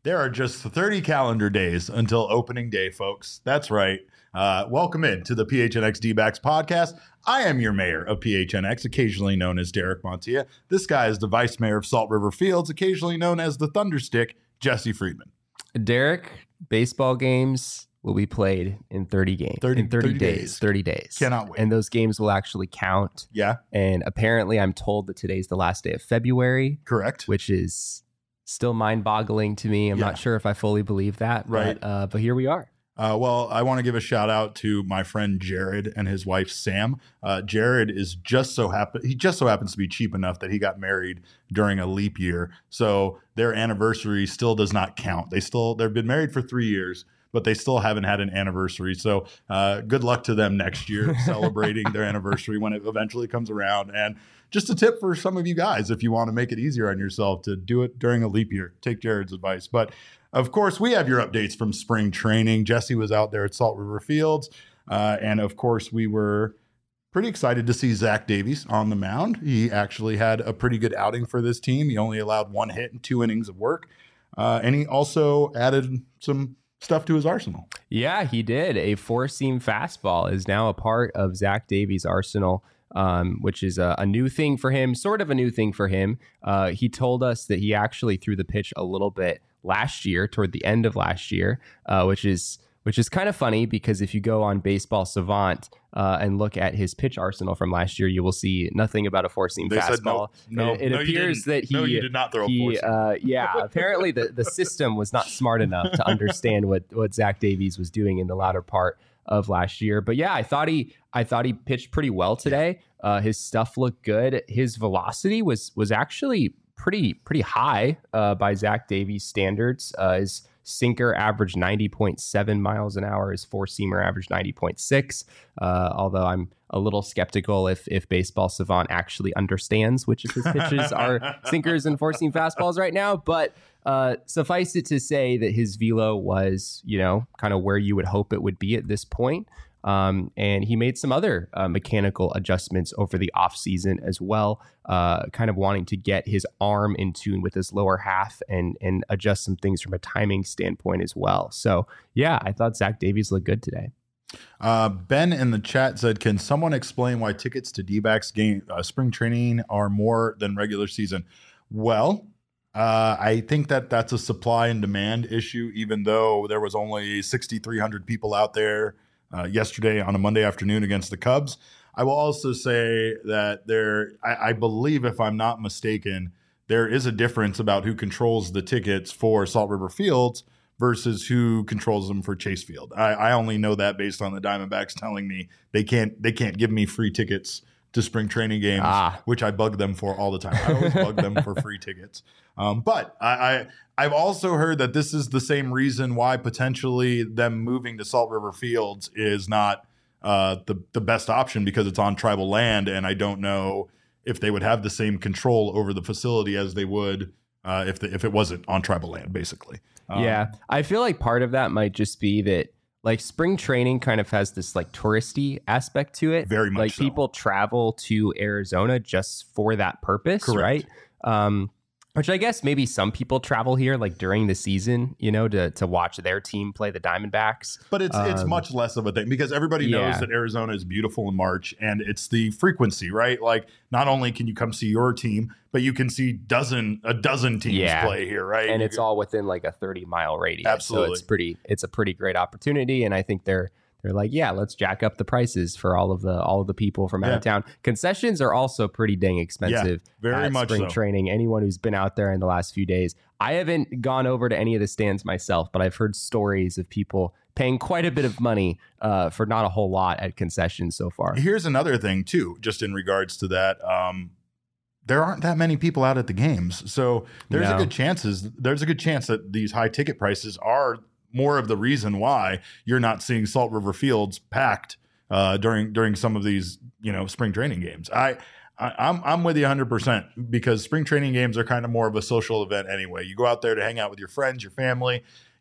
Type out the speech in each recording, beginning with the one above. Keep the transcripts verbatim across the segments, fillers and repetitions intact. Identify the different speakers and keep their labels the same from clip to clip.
Speaker 1: There are just thirty calendar days until opening day, folks. That's right. Uh, welcome in to the P H N X D-backs podcast. I am your mayor of P H N X, occasionally known as Derek Montilla. This guy is the vice mayor of Salt River Fields, occasionally known as the Thunderstick, Jesse Friedman.
Speaker 2: Derek, baseball games will be played in thirty games.
Speaker 1: thirty,
Speaker 2: in thirty,
Speaker 1: thirty
Speaker 2: days,
Speaker 1: days.
Speaker 2: thirty days.
Speaker 1: Cannot wait.
Speaker 2: And those games will actually count.
Speaker 1: Yeah.
Speaker 2: And apparently I'm told that today's the last day of February.
Speaker 1: Correct.
Speaker 2: Which is still mind-boggling to me. I'm
Speaker 1: Yeah.
Speaker 2: not sure if I fully believe that.
Speaker 1: Right.
Speaker 2: But, uh, but here we are.
Speaker 1: Uh, well, I want to give a shout out to my friend Jared and his wife Sam. Uh, Jared is just so happen he just so happens to be cheap enough that he got married during a leap year, so their anniversary still does not count. They still they've been married for three years, but they still haven't had an anniversary. So uh, good luck to them next year celebrating their anniversary when it eventually comes around. And just a tip for some of you guys, if you want to make it easier on yourself, to do it during a leap year. Take Jared's advice. But of course, we have your updates from spring training. Jesse was out there at Salt River Fields. Uh, and of course, we were pretty excited to see Zach Davies on the mound. He actually had a pretty good outing for this team. He only allowed one hit and two innings of work. Uh, and he also added some stuff to his arsenal.
Speaker 2: Yeah, he did. A four-seam fastball is now a part of Zach Davies' arsenal, um, which is a, a new thing for him, sort of a new thing for him. Uh, he told us that he actually threw the pitch a little bit last year, toward the end of last year, uh, which is which is kind of funny because if you go on Baseball Savant uh, and look at his pitch arsenal from last year, you will see nothing about a four-seam
Speaker 1: They
Speaker 2: fastball.
Speaker 1: said no, no,
Speaker 2: it, it
Speaker 1: no,
Speaker 2: appears that he,
Speaker 1: no, you did not throw
Speaker 2: he,
Speaker 1: a four-seam.
Speaker 2: uh, yeah, apparently the, the system was not smart enough to understand what, what Zach Davies was doing in the latter part of last year. But yeah, I thought he I thought he pitched pretty well today. Uh, his stuff looked good. His velocity was was actually pretty pretty high uh, by Zach Davies standards. Uh, his sinker averaged ninety point seven miles an hour. His four-seamer averaged ninety point six. Uh, although I'm a little skeptical if if Baseball Savant actually understands which of his pitches are sinkers and four-seam fastballs right now. But uh, suffice it to say that his velo was, you know, kind of where you would hope it would be at this point. Um, and he made some other uh, mechanical adjustments over the offseason as well, uh, kind of wanting to get his arm in tune with his lower half and and adjust some things from a timing standpoint as well. So, yeah, I thought Zach Davies looked good today.
Speaker 1: Uh, Ben in the chat said, can someone explain why tickets to D-backs game uh, spring training are more than regular season? Well, uh, I think that that's a supply and demand issue, even though there was only sixty-three hundred people out there uh, yesterday on a Monday afternoon against the Cubs. I will also say that there, I, I believe, if I'm not mistaken, there is a difference about who controls the tickets for Salt River Fields versus who controls them for Chase Field. I, I only know that based on the Diamondbacks telling me they can't they can't give me free tickets to spring training games,
Speaker 2: ah.
Speaker 1: which I bug them for all the time. I always bug them for free tickets. Um, but I, I I've also heard that this is the same reason why potentially them moving to Salt River Fields is not uh, the the best option, because it's on tribal land, and I don't know if they would have the same control over the facility as they would uh, if the, if it wasn't on tribal land, basically. Um,
Speaker 2: yeah, I feel like part of that might just be that like spring training kind of has this like touristy aspect to it.
Speaker 1: Very much
Speaker 2: like
Speaker 1: so.
Speaker 2: People travel to Arizona just for that purpose,
Speaker 1: Correct.
Speaker 2: right? Um, which I guess maybe some people travel here like during the season, you know, to to watch their team play the Diamondbacks.
Speaker 1: But it's it's
Speaker 2: Um,
Speaker 1: much less of a thing because everybody
Speaker 2: yeah.
Speaker 1: knows that Arizona is beautiful in March, and it's the frequency, right? Like not only can you come see your team, but you can see dozen a dozen teams
Speaker 2: Yeah.
Speaker 1: play here, right?
Speaker 2: and
Speaker 1: You
Speaker 2: it's
Speaker 1: can-
Speaker 2: all within like a thirty mile radius.
Speaker 1: Absolutely.
Speaker 2: So it's pretty, it's a pretty great opportunity. And I think they're, they're like, yeah, let's jack up the prices for all of the, all of the people from out
Speaker 1: Yeah.
Speaker 2: of town. Concessions are also pretty dang expensive.
Speaker 1: very
Speaker 2: at
Speaker 1: much
Speaker 2: spring
Speaker 1: so.
Speaker 2: training. Anyone who's been out there in the last few days, I haven't gone over to any of the stands myself, but I've heard stories of people paying quite a bit of money uh, for not a whole lot at concessions so far.
Speaker 1: Here's another thing too, just in regards to that. Um, there aren't that many people out at the games, so there's
Speaker 2: No.
Speaker 1: a good chances. There's a good chance that these high ticket prices are more of the reason why you're not seeing Salt River Fields packed uh, during during some of these, you know, spring training games. I, I I'm I'm with you one hundred percent because spring training games are kind of more of a social event anyway. You go out there to hang out with your friends, your family.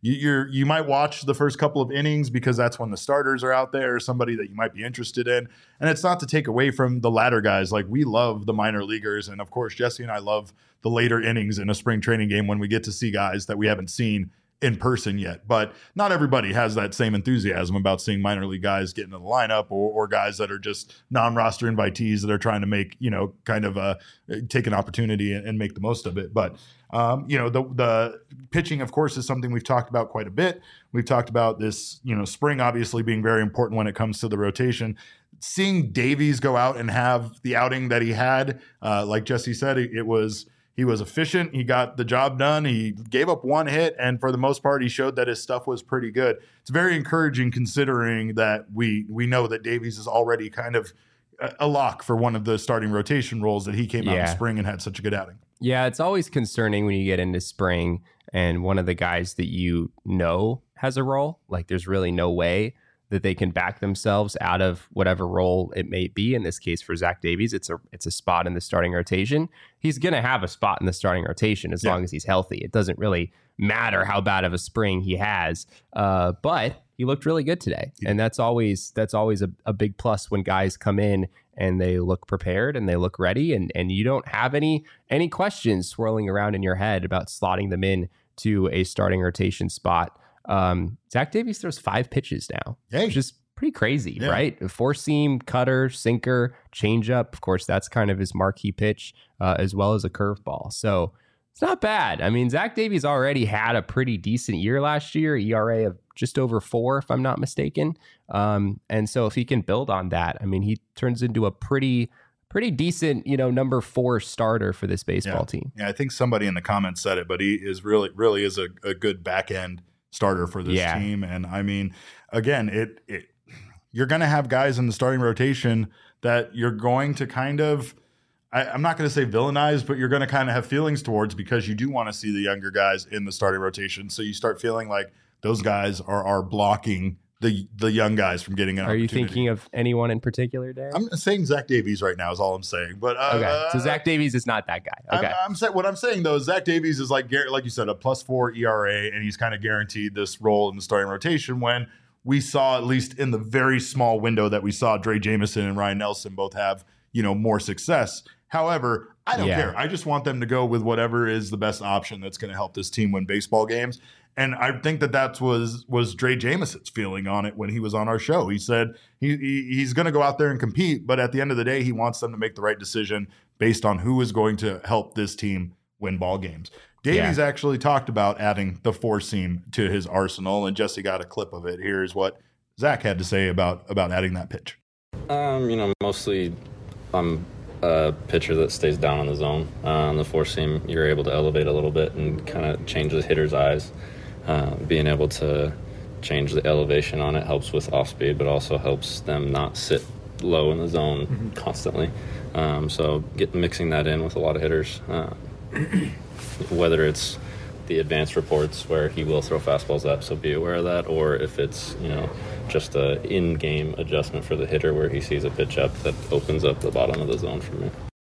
Speaker 1: you, you're you might watch the first couple of innings because that's when the starters are out there, somebody that you might be interested in. And it's not to take away from the latter guys. Like, we love the minor leaguers, and of course Jesse and I love the later innings in a spring training game when we get to see guys that we haven't seen in person yet. But not everybody has that same enthusiasm about seeing minor league guys get into the lineup, or, or guys that are just non-roster invitees that are trying to make, you know, kind of a take an opportunity and, and make the most of it. But um, you know, the the pitching, of course, is something we've talked about quite a bit. We've talked about this, you know, spring obviously being very important when it comes to the rotation. Seeing Davies go out and have the outing that he had, uh, like Jesse said, it, it was He was efficient. He got the job done. He gave up one hit, and for the most part, he showed that his stuff was pretty good. It's very encouraging considering that we we know that Davies is already kind of a lock for one of the starting rotation roles, that he came out
Speaker 2: Yeah.
Speaker 1: in spring and had such a good outing.
Speaker 2: Yeah, it's always concerning when you get into spring and one of the guys that you know has a role, like there's really no way that they can back themselves out of whatever role it may be. In this case, for Zach Davies, it's a it's a spot in the starting rotation. He's going to have a spot in the starting rotation as
Speaker 1: Yeah.
Speaker 2: long as he's healthy. It doesn't really matter how bad of a spring he has, uh, but he looked really good today,
Speaker 1: Yeah.
Speaker 2: and that's always that's always a, a big plus when guys come in and they look prepared and they look ready, and and you don't have any any questions swirling around in your head about slotting them in to a starting rotation spot. Um, Zach Davies throws five pitches now,
Speaker 1: Hey.
Speaker 2: which is pretty crazy,
Speaker 1: Yeah.
Speaker 2: right? A four seam, cutter, sinker, changeup. Of course, that's kind of his marquee pitch, uh, as well as a curveball. So it's not bad. I mean, Zach Davies already had a pretty decent year last year, E R A of just over four, if I'm not mistaken. Um, and so if he can build on that, I mean, he turns into a pretty, pretty decent, you know, number four starter for this baseball
Speaker 1: Yeah.
Speaker 2: team.
Speaker 1: Yeah, I think somebody in the comments said it, but he is really, really is a, a good back end starter for this
Speaker 2: Yeah.
Speaker 1: team. And I mean, again, it, it you're going to have guys in the starting rotation that you're going to kind of, I, I'm not going to say villainize, but you're going to kind of have feelings towards, because you do want to see the younger guys in the starting rotation. So you start feeling like those guys are are blocking the the young guys from getting an
Speaker 2: Are you
Speaker 1: opportunity.
Speaker 2: thinking of anyone in particular, Darren?
Speaker 1: I'm saying Zach Davies right now is all I'm saying. But uh,
Speaker 2: Okay, so Zach Davies is not that guy. Okay,
Speaker 1: I'm, I'm saying what I'm saying though is Zach Davies is like gar- like you said, a plus four E R A, and he's kind of guaranteed this role in the starting rotation. When we saw, at least in the very small window that we saw, Dre Jameson and Ryan Nelson both have, you know, more success. However, I don't
Speaker 2: Yeah.
Speaker 1: care. I just want them to go with whatever is the best option that's going to help this team win baseball games. And I think that that was was Dre Jameson's feeling on it when he was on our show. He said he, he he's going to go out there and compete, but at the end of the day, he wants them to make the right decision based on who is going to help this team win ball games. Davies
Speaker 2: Yeah.
Speaker 1: actually talked about adding the four seam to his arsenal, and Jesse got a clip of it. Here's what Zach had to say about about adding that pitch.
Speaker 3: Um, you know, mostly I'm a pitcher that stays down on the zone. Uh, on the four seam, you're able to elevate a little bit and kind of change the hitter's eyes. Uh, being able to change the elevation on it helps with off speed, but also helps them not sit low in the zone mm-hmm. constantly. Um, so get mixing that in with a lot of hitters, uh, whether it's the advanced reports where he will throw fastballs up, so be aware of that, or if it's, you know, just a in-game adjustment for the hitter where he sees a pitch up that opens up the bottom of the zone for me.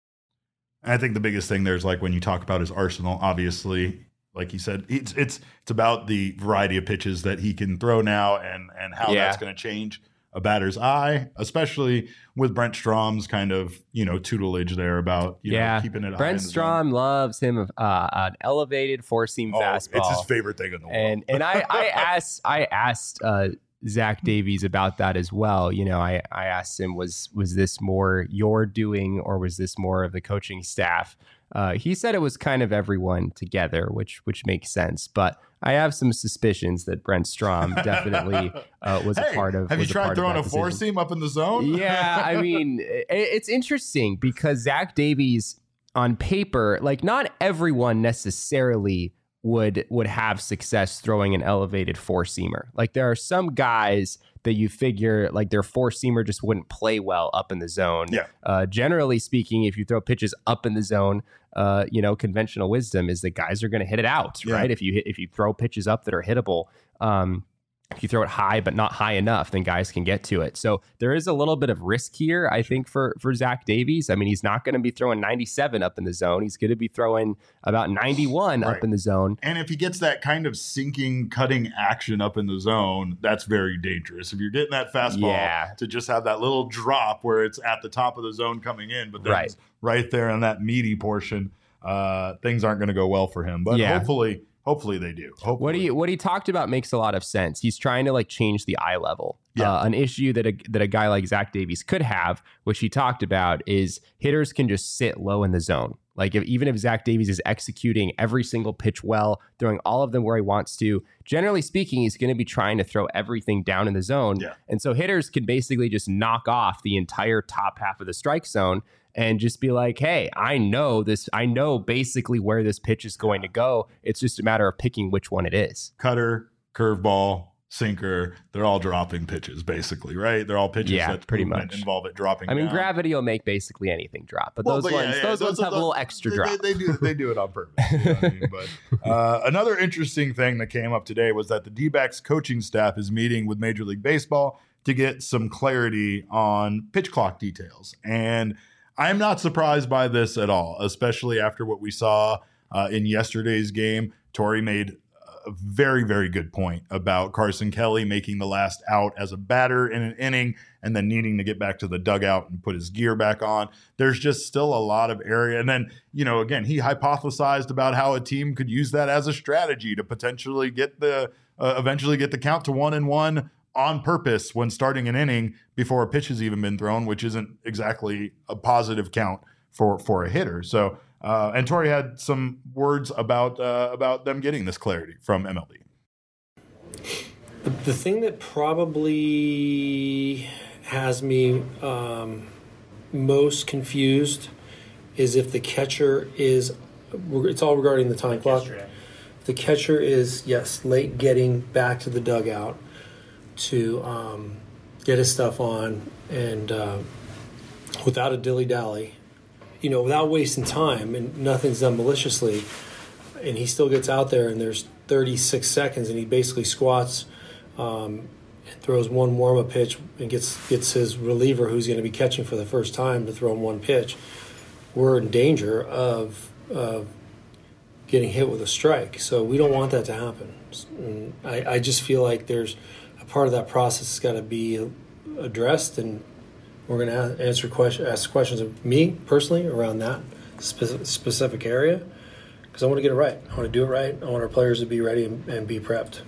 Speaker 1: I think the biggest thing there is, like, when you talk about his arsenal, obviously, like he said, it's it's it's about the variety of pitches that he can throw now, and and how
Speaker 2: Yeah.
Speaker 1: that's going to change a batter's eye, especially with Brent Strom's kind of, you know, tutelage there about, you
Speaker 2: yeah,
Speaker 1: know, keeping it high
Speaker 2: Brent
Speaker 1: in the
Speaker 2: Strom loves him uh, an elevated four seam
Speaker 1: zone. Oh,
Speaker 2: fastball.
Speaker 1: it's his favorite thing in the world.
Speaker 2: and and I I asked I asked uh, Zach Davies about that as well. You know, I I asked him, was was this more your doing, or was this more of the coaching staff? Uh, he said it was kind of everyone together, which which makes sense. But I have some suspicions that Brent Strom definitely uh, was
Speaker 1: Hey,
Speaker 2: a part of.
Speaker 1: have you
Speaker 2: was a
Speaker 1: tried
Speaker 2: part of
Speaker 1: throwing
Speaker 2: that
Speaker 1: a four
Speaker 2: decision.
Speaker 1: seam up in the zone?
Speaker 2: Yeah, I mean, it, it's interesting because Zach Davies, on paper, like, not everyone necessarily would would have success throwing an elevated four seamer. Like, there are some guys that you figure, like, their four seamer just wouldn't play well up in the zone.
Speaker 1: Yeah.
Speaker 2: Uh, generally speaking, if you throw pitches up in the zone, uh, you know, conventional wisdom is that guys are going to hit it out,
Speaker 1: Yeah.
Speaker 2: right? If you hit, if you throw pitches up that are hittable. Um, If you throw it high, but not high enough, then guys can get to it. So there is a little bit of risk here, I think, for, for Zach Davies. I mean, he's not going to be throwing ninety-seven up in the zone. He's going to be throwing about ninety-one right. up in the zone.
Speaker 1: And if he gets that kind of sinking, cutting action up in the zone, that's very dangerous. If you're getting that fastball
Speaker 2: yeah.
Speaker 1: to just have that little drop where it's at the top of the zone coming in, but then
Speaker 2: right.
Speaker 1: it's right there on that meaty portion, uh, things aren't going to go well for him. But yeah. hopefully... Hopefully they do. Hopefully.
Speaker 2: What he what he talked about makes a lot of sense. He's trying to like change the eye level. Yeah. Uh, an issue that a, that a guy like Zach Davies could have, which he talked about, is hitters can just sit low in the zone. Like if, even if Zach Davies is executing every single pitch well, throwing all of them where he wants to, generally speaking, he's going to be trying to throw everything down in the zone.
Speaker 1: Yeah.
Speaker 2: And so hitters can basically just knock off the entire top half of the strike zone and just be like, hey, I know this. I know basically where this pitch is going to go. It's just a matter of picking which one it is.
Speaker 1: Cutter, curveball, sinker, they're all dropping pitches, basically, right? They're all pitches
Speaker 2: yeah,
Speaker 1: that
Speaker 2: pretty much
Speaker 1: involve it dropping
Speaker 2: I mean,
Speaker 1: down.
Speaker 2: Gravity will make basically anything drop, but
Speaker 1: well,
Speaker 2: those
Speaker 1: but
Speaker 2: ones,
Speaker 1: yeah, yeah,
Speaker 2: those,
Speaker 1: those
Speaker 2: ones
Speaker 1: are
Speaker 2: have
Speaker 1: the,
Speaker 2: a little extra
Speaker 1: they,
Speaker 2: drop.
Speaker 1: They, they, do, they do it on purpose. You know what I mean? But uh, another interesting thing that came up today was that the D-backs coaching staff is meeting with Major League Baseball to get some clarity on pitch clock details. And I'm not surprised by this at all, especially after what we saw uh, in yesterday's game. Torey made a very, very good point about Carson Kelly making the last out as a batter in an inning and then needing to get back to the dugout and put his gear back on. There's just still a lot of area. And then, you know, again, he hypothesized about how a team could use that as a strategy to potentially get the uh, eventually get the count to one and one on purpose when starting an inning before a pitch has even been thrown, which isn't exactly a positive count for, for a hitter. So, uh, and Torey had some words about uh, about them getting this clarity from M L B.
Speaker 4: The, the thing that probably has me um, most confused is if the catcher is, it's all regarding the time clock. If the catcher is, yes, late getting back to the dugout to um, get his stuff on and uh, without a dilly-dally, you know, without wasting time, and nothing's done maliciously, and he still gets out there and there's thirty-six seconds and he basically squats um, and throws one warm-up pitch and gets gets his reliever, who's going to be catching for the first time, to throw him one pitch. We're in danger of uh, getting hit with a strike, so we don't want that to happen. And I, I just feel like there's part of that process has got to be addressed, and we're going to answer question, ask questions of me personally around that spe- specific area, because I want to get it right. I want to do it right. I want our players to be ready and, and be prepped.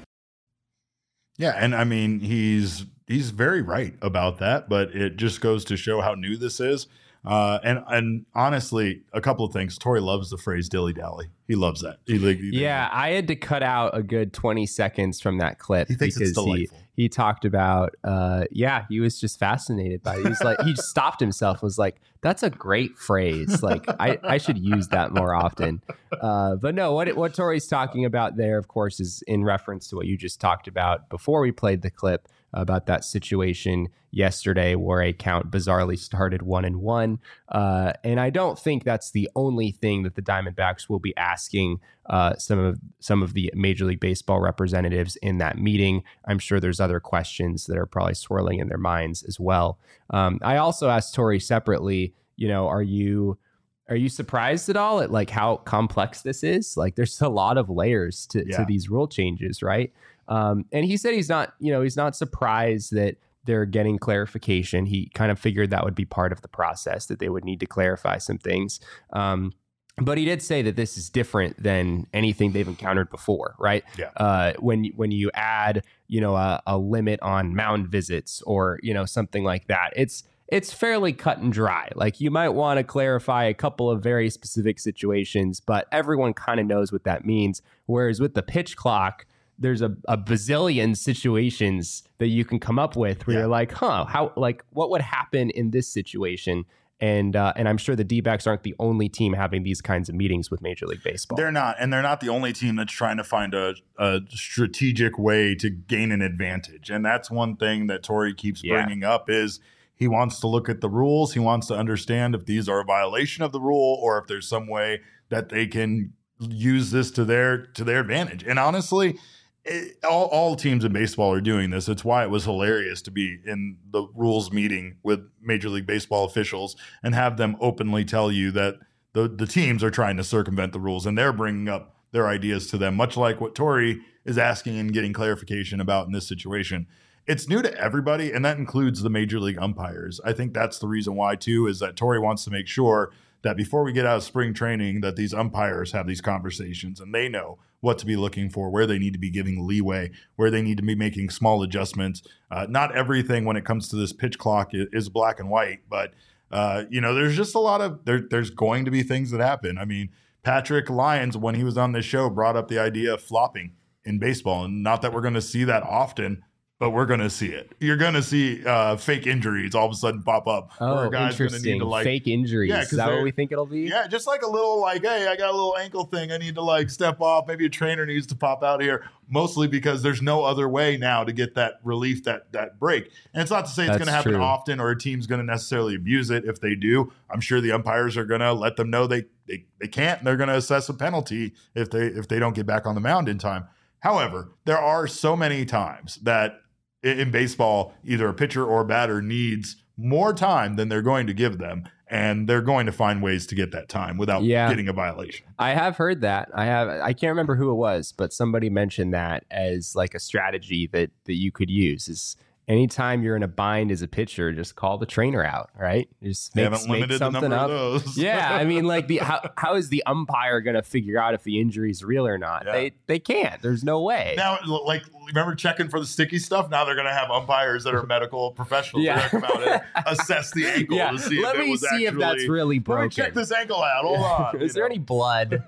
Speaker 1: Yeah, and I mean, he's he's very right about that, but it just goes to show how new this is. Uh, and and honestly, a couple of things. Torey loves the phrase dilly dally. He loves that. He, he,
Speaker 2: yeah, I had to cut out a good twenty seconds from that clip
Speaker 1: he thinks
Speaker 2: because
Speaker 1: it's delightful.
Speaker 2: he he talked about. Uh, yeah, he was just fascinated by it. He was like, he stopped himself. Was like, that's a great phrase. Like, I, I should use that more often. Uh, but no, what what Torey's talking about there, of course, is in reference to what you just talked about before we played the clip about that situation yesterday where a count bizarrely started one and one. Uh, and I don't think that's the only thing that the Diamondbacks will be asking uh, some of some of the Major League Baseball representatives in that meeting. I'm sure there's other questions that are probably swirling in their minds as well. Um, I also asked Torey separately, you know, are you are you surprised at all at like how complex this is? Like there's a lot of layers to,
Speaker 1: yeah.
Speaker 2: to these rule changes, right? Um, and he said he's not, you know, he's not surprised that they're getting clarification. He kind of figured that would be part of the process, that they would need to clarify some things. Um, but he did say that this is different than anything they've encountered before, right?
Speaker 1: Yeah.
Speaker 2: Uh, when when you add, you know, a, a limit on mound visits or, you know, something like that, it's it's fairly cut and dry. Like you might want to clarify a couple of very specific situations, but everyone kind of knows what that means. Whereas with the pitch clock, there's a, a bazillion situations that you can come up with where yeah. you're like, huh, how, like, what would happen in this situation? And uh, and I'm sure the D-backs aren't the only team having these kinds of meetings with Major League Baseball.
Speaker 1: They're not, and they're not the only team that's trying to find a, a strategic way to gain an advantage. And that's one thing that Torey keeps
Speaker 2: yeah.
Speaker 1: bringing up is he wants to look at the rules. He wants to understand if these are a violation of the rule or if there's some way that they can use this to their to their advantage. And honestly, it, all, all teams in baseball are doing this. It's why it was hilarious to be in the rules meeting with Major League Baseball officials and have them openly tell you that the, the teams are trying to circumvent the rules and they're bringing up their ideas to them, much like what Torey is asking and getting clarification about in this situation. It's new to everybody, and that includes the Major League umpires. I think that's the reason why, too, is that Torey wants to make sure that before we get out of spring training, that these umpires have these conversations and they know what to be looking for, where they need to be giving leeway, where they need to be making small adjustments. Uh, not everything when it comes to this pitch clock is, is black and white, but uh, you know, there's just a lot of there, there's going to be things that happen. I mean, Patrick Lyons, when he was on this show, brought up the idea of flopping in baseball, and not that we're going to see that often, but we're going to see it. You're going to see uh, fake injuries all of a sudden pop up.
Speaker 2: Oh,
Speaker 1: where a guy's gonna
Speaker 2: interesting.
Speaker 1: need to, like,
Speaker 2: fake injuries.
Speaker 1: Yeah,
Speaker 2: Is that what we think it'll be?
Speaker 1: Yeah, just like a little like, hey, I got a little ankle thing. I need to like step off. Maybe a trainer needs to pop out here. Mostly because there's no other way now to get that relief, that that break. And it's not to say it's going to happen
Speaker 2: true.
Speaker 1: often or a team's going to necessarily abuse it. If they do, I'm sure the umpires are going to let them know they they, they can't. And they're going to assess a penalty if they if they don't get back on the mound in time. However, there are so many times that in baseball, either a pitcher or a batter needs more time than they're going to give them, and they're going to find ways to get that time without
Speaker 2: yeah.
Speaker 1: getting a violation.
Speaker 2: I have heard that. I have. I can't remember who it was, but somebody mentioned that as like a strategy that that you could use is anytime you're in a bind as a pitcher, just call the trainer out, right? Just
Speaker 1: They
Speaker 2: make,
Speaker 1: haven't
Speaker 2: make
Speaker 1: limited the
Speaker 2: something
Speaker 1: number
Speaker 2: up.
Speaker 1: of those.
Speaker 2: Yeah, I mean, like the how how is the umpire going to figure out if the injury is real or not?
Speaker 1: Yeah.
Speaker 2: They they can't. There's no way.
Speaker 1: Now, like, remember checking for the sticky stuff? Now they're going to have umpires that are medical professionals.
Speaker 2: Yeah.
Speaker 1: They're going to come out and assess the ankle
Speaker 2: yeah,
Speaker 1: to see
Speaker 2: let
Speaker 1: if it
Speaker 2: me
Speaker 1: was
Speaker 2: see
Speaker 1: actually,
Speaker 2: if that's really broken.
Speaker 1: Let me check this ankle out. Hold on.
Speaker 2: Is
Speaker 1: you
Speaker 2: there
Speaker 1: know?
Speaker 2: any blood?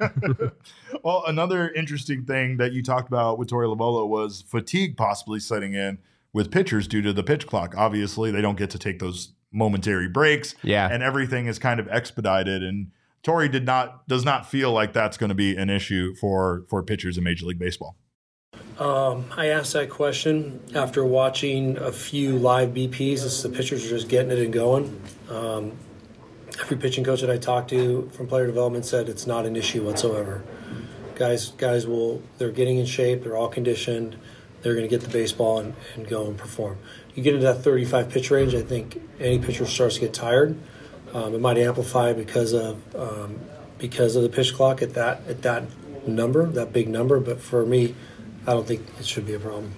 Speaker 1: Well, another interesting thing that you talked about with Torey Lovullo was fatigue possibly setting in with pitchers due to the pitch clock. Obviously, they don't get to take those momentary breaks.
Speaker 2: Yeah.
Speaker 1: And everything is kind of expedited. And Torey did not does not feel like that's going to be an issue for, for pitchers in Major League Baseball.
Speaker 4: Um, I asked that question after watching a few live B Ps as the pitchers are just getting it and going. Um, every pitching coach that I talked to from player development said it's not an issue whatsoever. Guys, guys will they're getting in shape. They're all conditioned. They're going to get the baseball and, and go and perform. You get into that thirty-five pitch range, I think any pitcher starts to get tired. Um, it might amplify because of um, because of the pitch clock at that at that number, that big number. But for me, I don't think it should be a problem.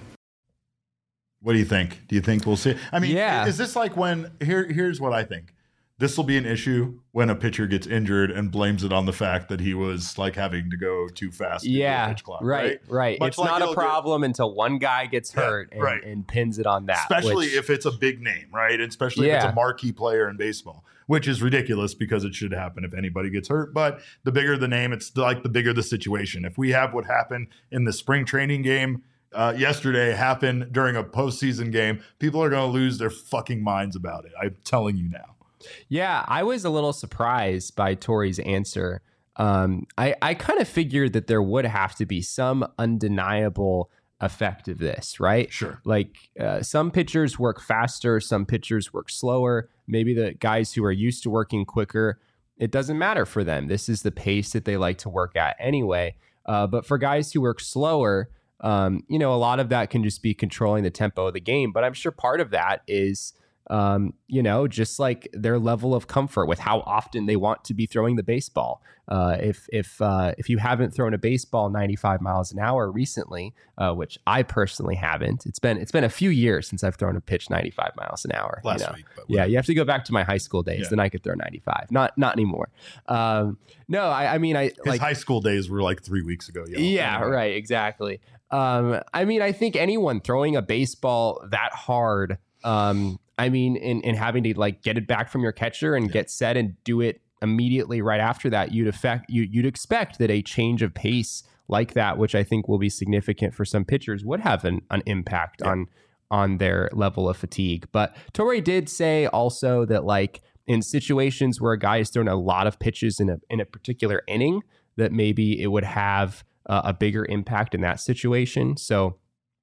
Speaker 1: What do you think? Do you think we'll see? I mean,
Speaker 2: Yeah.
Speaker 1: is this like when here? Here's what I think. This will be an issue when a pitcher gets injured and blames it on the fact that he was like having to go too fast. into
Speaker 2: Yeah,
Speaker 1: the pitch clock,
Speaker 2: right,
Speaker 1: right.
Speaker 2: right.
Speaker 1: Much
Speaker 2: It's
Speaker 1: like
Speaker 2: not a
Speaker 1: you'll get-
Speaker 2: problem until one guy gets
Speaker 1: Yeah,
Speaker 2: hurt and,
Speaker 1: right.
Speaker 2: and pins it on that.
Speaker 1: Especially
Speaker 2: which-
Speaker 1: if it's a big name, right? And especially if it's
Speaker 2: Yeah.
Speaker 1: a marquee player in baseball, which is ridiculous because it should happen if anybody gets hurt. But the bigger the name, it's like the bigger the situation. If we have what happened in the spring training game uh, yesterday happen during a postseason game, people are going to lose their fucking minds about it. I'm telling you now.
Speaker 2: Yeah, I was a little surprised by Torey's answer. Um, I, I kind of figured that there would have to be some undeniable effect of this, right?
Speaker 1: Sure.
Speaker 2: Like uh, some pitchers work faster, some pitchers work slower. Maybe the guys who are used to working quicker, it doesn't matter for them. This is the pace that they like to work at anyway. Uh, but for guys who work slower, um, you know, a lot of that can just be controlling the tempo of the game. But I'm sure part of that is um, you know, just like their level of comfort with how often they want to be throwing the baseball. Uh, if if uh, if you haven't thrown a baseball ninety-five miles an hour recently, uh, which I personally haven't, it's been it's been a few years since I've thrown a pitch ninety-five miles an hour.
Speaker 1: Last
Speaker 2: you know?
Speaker 1: week, but
Speaker 2: Yeah, you have to go back to my high school days,
Speaker 1: Yeah.
Speaker 2: then I could throw ninety-five. Not not anymore. Um, no, I, I mean, I
Speaker 1: His
Speaker 2: like
Speaker 1: high school days were like three weeks ago. Y'all.
Speaker 2: yeah,
Speaker 1: Anyway.
Speaker 2: right, exactly. Um, I mean, I think anyone throwing a baseball that hard, um, I mean, and, and having to like get it back from your catcher and
Speaker 1: Yeah.
Speaker 2: get set and do it immediately right after that, you'd affect you you'd expect that a change of pace like that, which I think will be significant for some pitchers, would have an, an impact
Speaker 1: Yeah.
Speaker 2: on on their level of fatigue. But Torey did say also that like in situations where a guy is throwing a lot of pitches in a in a particular inning, that maybe it would have uh, a bigger impact in that situation. So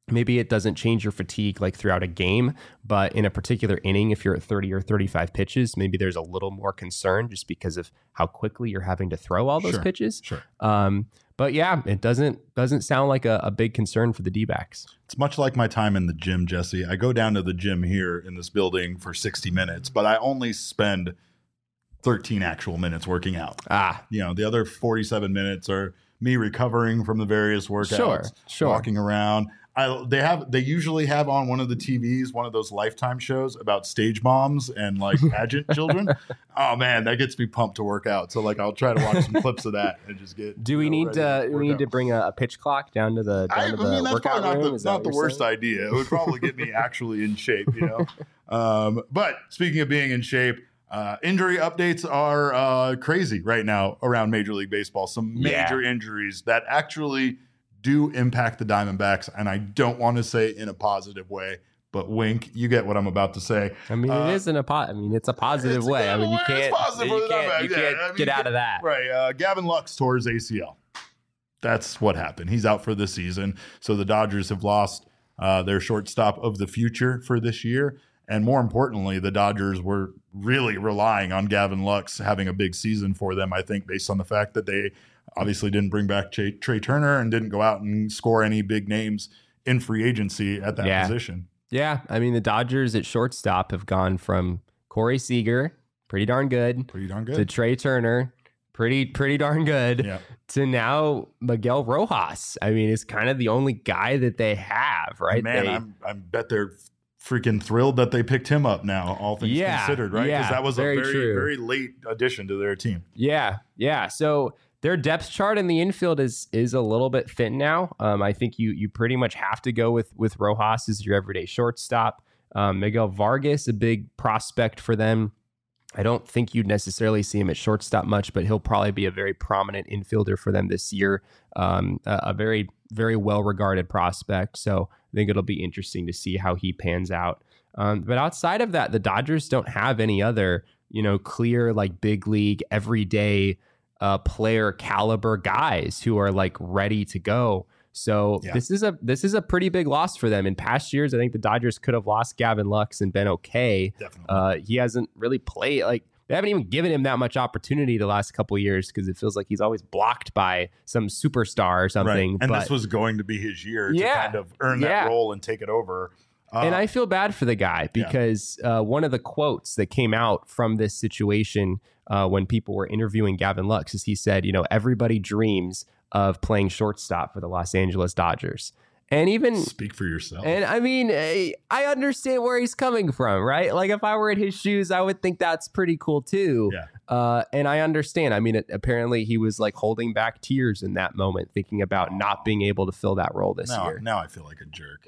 Speaker 2: maybe it doesn't change your fatigue like throughout a game, but in a particular inning, if you're at thirty or thirty-five pitches, maybe there's a little more concern just because of how quickly you're having to throw all those
Speaker 1: Sure,
Speaker 2: pitches.
Speaker 1: Sure.
Speaker 2: Um, but yeah, it doesn't doesn't sound like a, a big concern for the D-backs.
Speaker 1: It's much like my time in the gym, Jesse. I go down to the gym here in this building for sixty minutes, but I only spend thirteen actual minutes working out.
Speaker 2: Ah,
Speaker 1: You know, the other forty-seven minutes are me recovering from the various workouts,
Speaker 2: Sure, sure.
Speaker 1: walking around. I, they have they usually have on one of the T Vs one of those Lifetime shows about stage moms and like pageant children. Oh man, that gets me pumped to work out. So like I'll try to watch some clips of that and just get.
Speaker 2: do we
Speaker 1: you know,
Speaker 2: need
Speaker 1: ready
Speaker 2: to,
Speaker 1: to
Speaker 2: we
Speaker 1: work
Speaker 2: need
Speaker 1: out.
Speaker 2: to bring a, a pitch clock down to the down
Speaker 1: I,
Speaker 2: to
Speaker 1: I
Speaker 2: the
Speaker 1: mean, that's
Speaker 2: workout
Speaker 1: probably not
Speaker 2: room?
Speaker 1: the,
Speaker 2: Is that
Speaker 1: not
Speaker 2: what
Speaker 1: the
Speaker 2: you're
Speaker 1: worst
Speaker 2: saying?
Speaker 1: idea. It would probably get me actually in shape, you know. Um, but speaking of being in shape, uh, injury updates are uh, crazy right now around Major League Baseball. Some major
Speaker 2: Yeah.
Speaker 1: injuries that actually do impact the Diamondbacks, and I don't want to say in a positive way, but wink, you get what I'm about to say.
Speaker 2: I mean,
Speaker 1: Uh,
Speaker 2: it isn't a po- I mean, it's a positive
Speaker 1: it's a
Speaker 2: way. I
Speaker 1: good
Speaker 2: mean, you
Speaker 1: way. It's
Speaker 2: can't,
Speaker 1: positive
Speaker 2: you
Speaker 1: for the
Speaker 2: can't,
Speaker 1: Diamondbacks.
Speaker 2: you
Speaker 1: Yeah,
Speaker 2: can't
Speaker 1: I mean,
Speaker 2: get out of that.
Speaker 1: Right. Uh, Gavin Lux tore his A C L. That's what happened. He's out for the season. So the Dodgers have lost uh, their shortstop of the future for this year. And more importantly, the Dodgers were really relying on Gavin Lux having a big season for them, I think, based on the fact that they obviously didn't bring back Trey, Trey Turner and didn't go out and score any big names in free agency at that
Speaker 2: Yeah.
Speaker 1: position.
Speaker 2: Yeah, I mean, the Dodgers at shortstop have gone from Corey Seager, pretty darn good,
Speaker 1: Pretty darn
Speaker 2: to
Speaker 1: good.
Speaker 2: Trey Turner, pretty pretty darn good,
Speaker 1: Yeah.
Speaker 2: to now Miguel Rojas. I mean, it's kind of the only guy that they have, right?
Speaker 1: Man,
Speaker 2: They-
Speaker 1: I'm, I bet they're freaking thrilled that they picked him up now, all things
Speaker 2: Yeah,
Speaker 1: considered, right? Because
Speaker 2: yeah,
Speaker 1: that was
Speaker 2: very
Speaker 1: a very,
Speaker 2: true.
Speaker 1: very late addition to their team.
Speaker 2: Yeah, yeah. So their depth chart in the infield is is a little bit thin now. Um, I think you you pretty much have to go with with Rojas as your everyday shortstop. Um, Miguel Vargas, a big prospect for them. I don't think you'd necessarily see him at shortstop much, but he'll probably be a very prominent infielder for them this year. Um, a, a very, very well-regarded prospect. So I think it'll be interesting to see how he pans out. Um, but outside of that, the Dodgers don't have any other, you know, clear, like big league, everyday uh, player caliber guys who are like ready to go. So
Speaker 1: Yeah.
Speaker 2: this is a this is a pretty big loss for them. In past years, I think the Dodgers could have lost Gavin Lux and been okay.
Speaker 1: Definitely.
Speaker 2: Uh, he hasn't really played, like they haven't even given him that much opportunity the last couple of years because it feels like he's always blocked by some superstar or something.
Speaker 1: Right. And
Speaker 2: but,
Speaker 1: this was going to be his year
Speaker 2: Yeah.
Speaker 1: to kind of earn
Speaker 2: Yeah.
Speaker 1: that role and take it over. Uh,
Speaker 2: and I feel bad for the guy because uh, one of the quotes that came out from this situation uh, when people were interviewing Gavin Lux is he said, you know, everybody dreams of playing shortstop for the Los Angeles Dodgers. And even
Speaker 1: speak for yourself.
Speaker 2: And I mean, eh, I understand where he's coming from, right? Like if I were in his shoes, I would think that's pretty cool too.
Speaker 1: Yeah.
Speaker 2: Uh, and I understand. I mean, it, apparently he was like holding back tears in that moment, thinking about not being able to fill that role this
Speaker 1: now,
Speaker 2: year.
Speaker 1: now I feel like a jerk.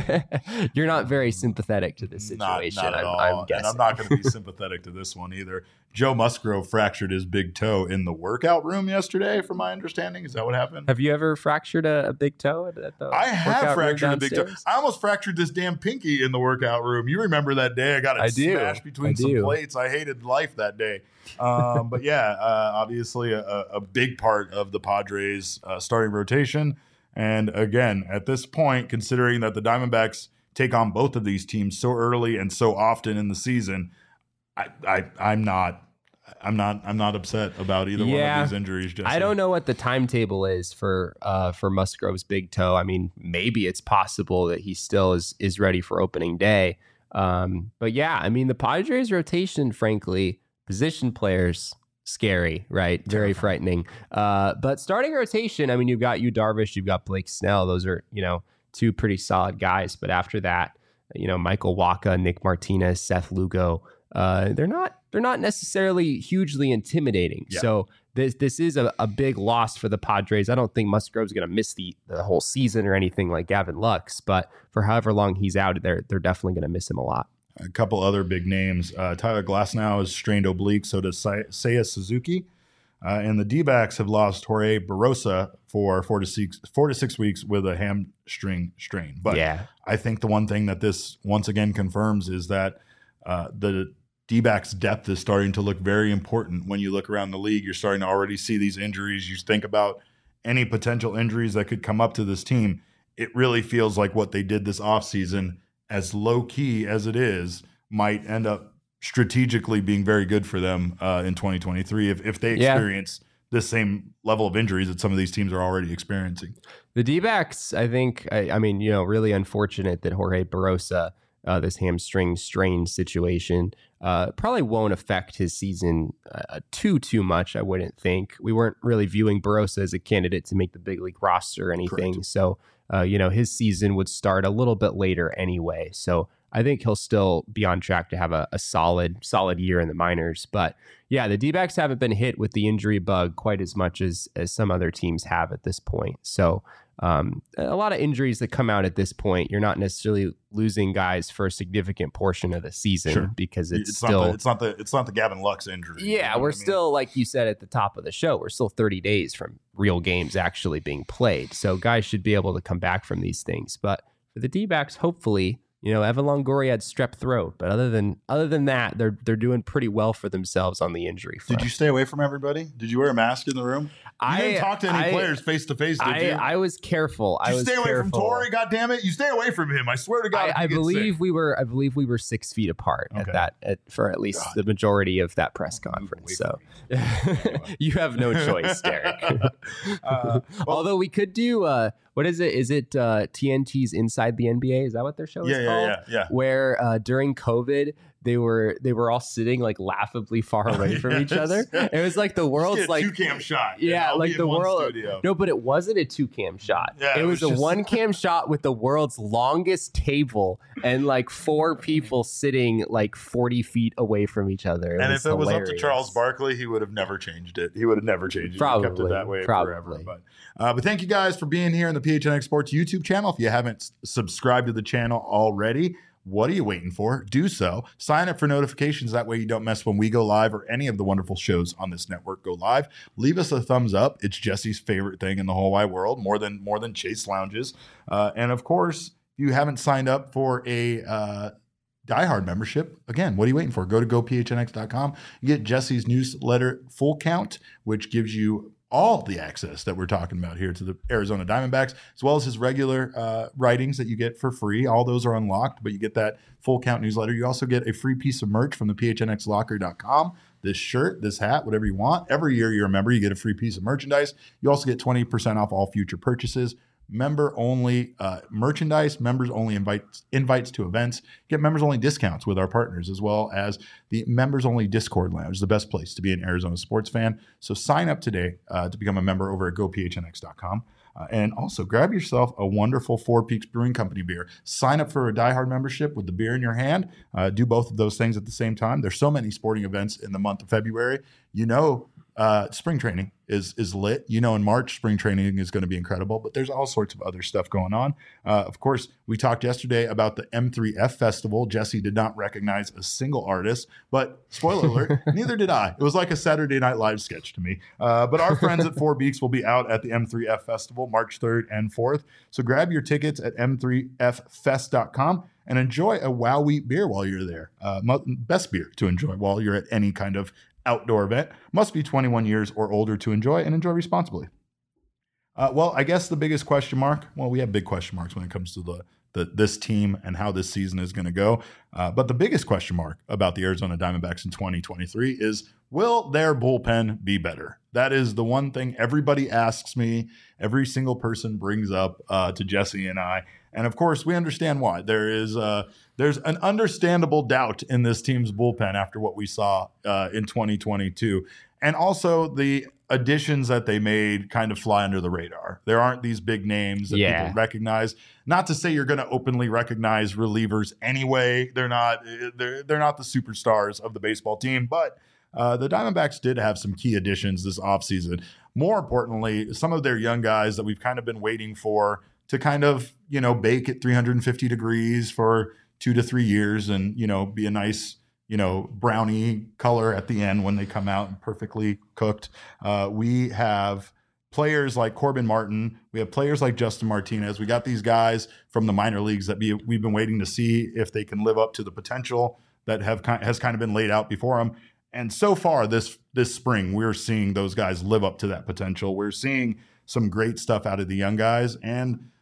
Speaker 2: You're not very sympathetic to this
Speaker 1: Not,
Speaker 2: situation.
Speaker 1: not at
Speaker 2: I'm,
Speaker 1: all.
Speaker 2: I'm guessing.
Speaker 1: And I'm not going to be sympathetic to this one either. Joe Musgrove fractured his big toe in the workout room yesterday, from my understanding. Is that what happened?
Speaker 2: Have you ever fractured a, a big toe at, at the
Speaker 1: I have
Speaker 2: workout room
Speaker 1: fractured a big toe.
Speaker 2: downstairs?
Speaker 1: I almost fractured this damn pinky in the workout room. You remember that day? I got it
Speaker 2: I do.
Speaker 1: smashed between
Speaker 2: I
Speaker 1: some
Speaker 2: do.
Speaker 1: plates. I hated life that day. Um, but yeah, uh, obviously a, a big part of the Padres' uh, starting rotation. And again, at this point, considering that the Diamondbacks take on both of these teams so early and so often in the season, I, I I'm not. I'm not. I'm not upset about either
Speaker 2: Yeah.
Speaker 1: one of these injuries. Jesse.
Speaker 2: I don't know what the timetable is for uh, for Musgrove's big toe. I mean, maybe it's possible that he still is is ready for opening day. Um, but yeah, I mean, the Padres rotation, frankly, position players, scary, right? Very frightening. Uh, but starting rotation, I mean, you've got you Darvish, you've got Blake Snell. Those are, you know, two pretty solid guys. But after that, you know, Michael Wacha, Nick Martinez, Seth Lugo, uh, they're not they're not necessarily hugely intimidating.
Speaker 1: Yeah.
Speaker 2: So this this is a, a big loss for the Padres. I don't think Musgrove's going to miss the, the whole season or anything like Gavin Lux, but for however long he's out, they're they're definitely going to miss him a lot.
Speaker 1: A couple other big names. Uh, Tyler Glasnow has strained oblique, so does Say- Seiya Suzuki. Uh, and the D-backs have lost Jorge Barosa for four to six four to six weeks with a hamstring strain. But
Speaker 2: yeah,
Speaker 1: I think the one thing that this once again confirms is that uh, the D-backs depth is starting to look very important. When you look around the league, you're starting to already see these injuries. You think about any potential injuries that could come up to this team. it really feels like what they did this offseason, as low key as it is, might end up strategically being very good for them uh, in twenty twenty-three if, if they experience yeah. the same level of injuries that some of these teams are already experiencing.
Speaker 2: The D-backs, I think, I, I mean, you know, really unfortunate that Jorge Barrosa, uh, this hamstring strain situation, uh, probably won't affect his season uh, too, too much, I wouldn't think. We weren't really viewing Barrosa as a candidate to make the big league roster or anything. Correct. So, uh, you know, his season would start a little bit later anyway. So I think he'll still be on track to have a, a solid, solid year in the minors. But yeah, the D-backs haven't been hit with the injury bug quite as much as, as some other teams have at this point. So um, a lot of injuries that come out at this point, you're not necessarily losing guys for a significant portion of the season sure. because it's,
Speaker 1: it's
Speaker 2: still,
Speaker 1: not the, it's not the, it's not the Gavin Lux injury.
Speaker 2: Yeah. You know we're I mean? still, like you said at the top of the show, we're still thirty days from real games actually being played. So guys should be able to come back from these things. But for the D-backs, hopefully, you know, Evan Longoria had strep throat, but other than other than that, they're they're doing pretty well for themselves on the injury front.
Speaker 1: Did you stay away from everybody? Did you wear a mask in the room? You
Speaker 2: I
Speaker 1: didn't talk to any
Speaker 2: I,
Speaker 1: players face to face, did
Speaker 2: I,
Speaker 1: you?
Speaker 2: I was careful.
Speaker 1: Did you
Speaker 2: I was
Speaker 1: stay away
Speaker 2: careful.
Speaker 1: from Torrey? God damn it! You stay away from him. I swear to God.
Speaker 2: I, I believe
Speaker 1: sick.
Speaker 2: we were. I believe we were six feet apart okay. at that at, for at least God. the majority of that press conference. So you have no choice, Derek. uh, well, Although we could do. Uh, What is it? Is it uh, T N T's Inside the N B A? Is that what their show
Speaker 1: yeah,
Speaker 2: is
Speaker 1: yeah,
Speaker 2: called?
Speaker 1: Yeah, yeah,
Speaker 2: Where uh, during COVID, they were they were all sitting like laughably far away from yes. each other. It was like the world's like
Speaker 1: two cam shot.
Speaker 2: Yeah, like the world. Studio. No, but it wasn't a two cam shot. Yeah, it, it was, was a just... one cam shot with the world's longest table and like four people sitting like forty feet away from each other. It
Speaker 1: and
Speaker 2: was
Speaker 1: if it
Speaker 2: hilarious.
Speaker 1: was up to Charles Barkley, he would have never changed it. He would have never changed it.
Speaker 2: Probably,
Speaker 1: he kept it that way
Speaker 2: probably.
Speaker 1: forever. But uh, but thank you guys for being here in the P H N X Sports YouTube channel. If you haven't s- subscribed to the channel already, what are you waiting for? Do so. Sign up for notifications. That way you don't miss when we go live or any of the wonderful shows on this network go live. Leave us a thumbs up. It's Jesse's favorite thing in the whole wide world, more than more than Chase Lounges. Uh, and of course, if you haven't signed up for a uh, diehard membership, again, what are you waiting for? Go to go P H N X dot com. You get Jesse's newsletter Full Count, which gives you all the access that we're talking about here to the Arizona Diamondbacks, as well as his regular uh, writings that you get for free. All those are unlocked, but you get that Full Count newsletter. You also get a free piece of merch from the P H N X locker dot com. This shirt, this hat, whatever you want. Every year you're a member, you get a free piece of merchandise. You also get twenty percent off all future purchases. Member only uh, merchandise, members only invites invites to events, get members only discounts with our partners, as well as the members only Discord lounge, the best place to be an Arizona sports fan. So sign up today uh, to become a member over at go P H N X dot com. Uh, and also grab yourself a wonderful Four Peaks Brewing Company beer. Sign up for a diehard membership with the beer in your hand. Uh, do both of those things at the same time. There's so many sporting events in the month of February. You know, uh, spring training is is lit. You know, in March, spring training is going to be incredible, but there's all sorts of other stuff going on. Uh, of course, we talked yesterday about the M three F Festival. Jesse did not recognize a single artist, but spoiler alert, neither did I. It was like a Saturday Night Live sketch to me. Uh, but our friends at Four Beaks will be out at the M three F Festival March third and fourth. So grab your tickets at M three F fest dot com and enjoy a Wow Wheat beer while you're there. Uh, best beer to enjoy while you're at any kind of outdoor event. Must be twenty-one years or older to enjoy, and enjoy responsibly. Uh, well, I guess the biggest question mark, well, we have big question marks when it comes to the, the this team and how this season is going to go. Uh, but the biggest question mark about the Arizona Diamondbacks in twenty twenty-three is, will their bullpen be better? That is the one thing everybody asks me. Every single person brings up uh, to Jesse and I. And of course, we understand why. There is uh, there's an understandable doubt in this team's bullpen after what we saw uh, in twenty twenty-two. And also the additions that they made kind of fly under the radar. There aren't these big names that yeah. people recognize. Not to say you're going to openly recognize relievers anyway. They're not they're, they're not the superstars of the baseball team, but uh, the Diamondbacks did have some key additions this offseason. More importantly, some of their young guys that we've kind of been waiting for to kind of, you know, bake at three hundred fifty degrees for two to three years and, you know, be a nice, you know, brownie color at the end when they come out and perfectly cooked. Uh, we have players like Corbin Martin. We have players like Justin Martinez. We got these guys from the minor leagues that be, we've been waiting to see if they can live up to the potential that have has kind of been laid out before them. And so far this this spring, we're seeing those guys live up to that potential. We're seeing some great stuff out of the young guys, and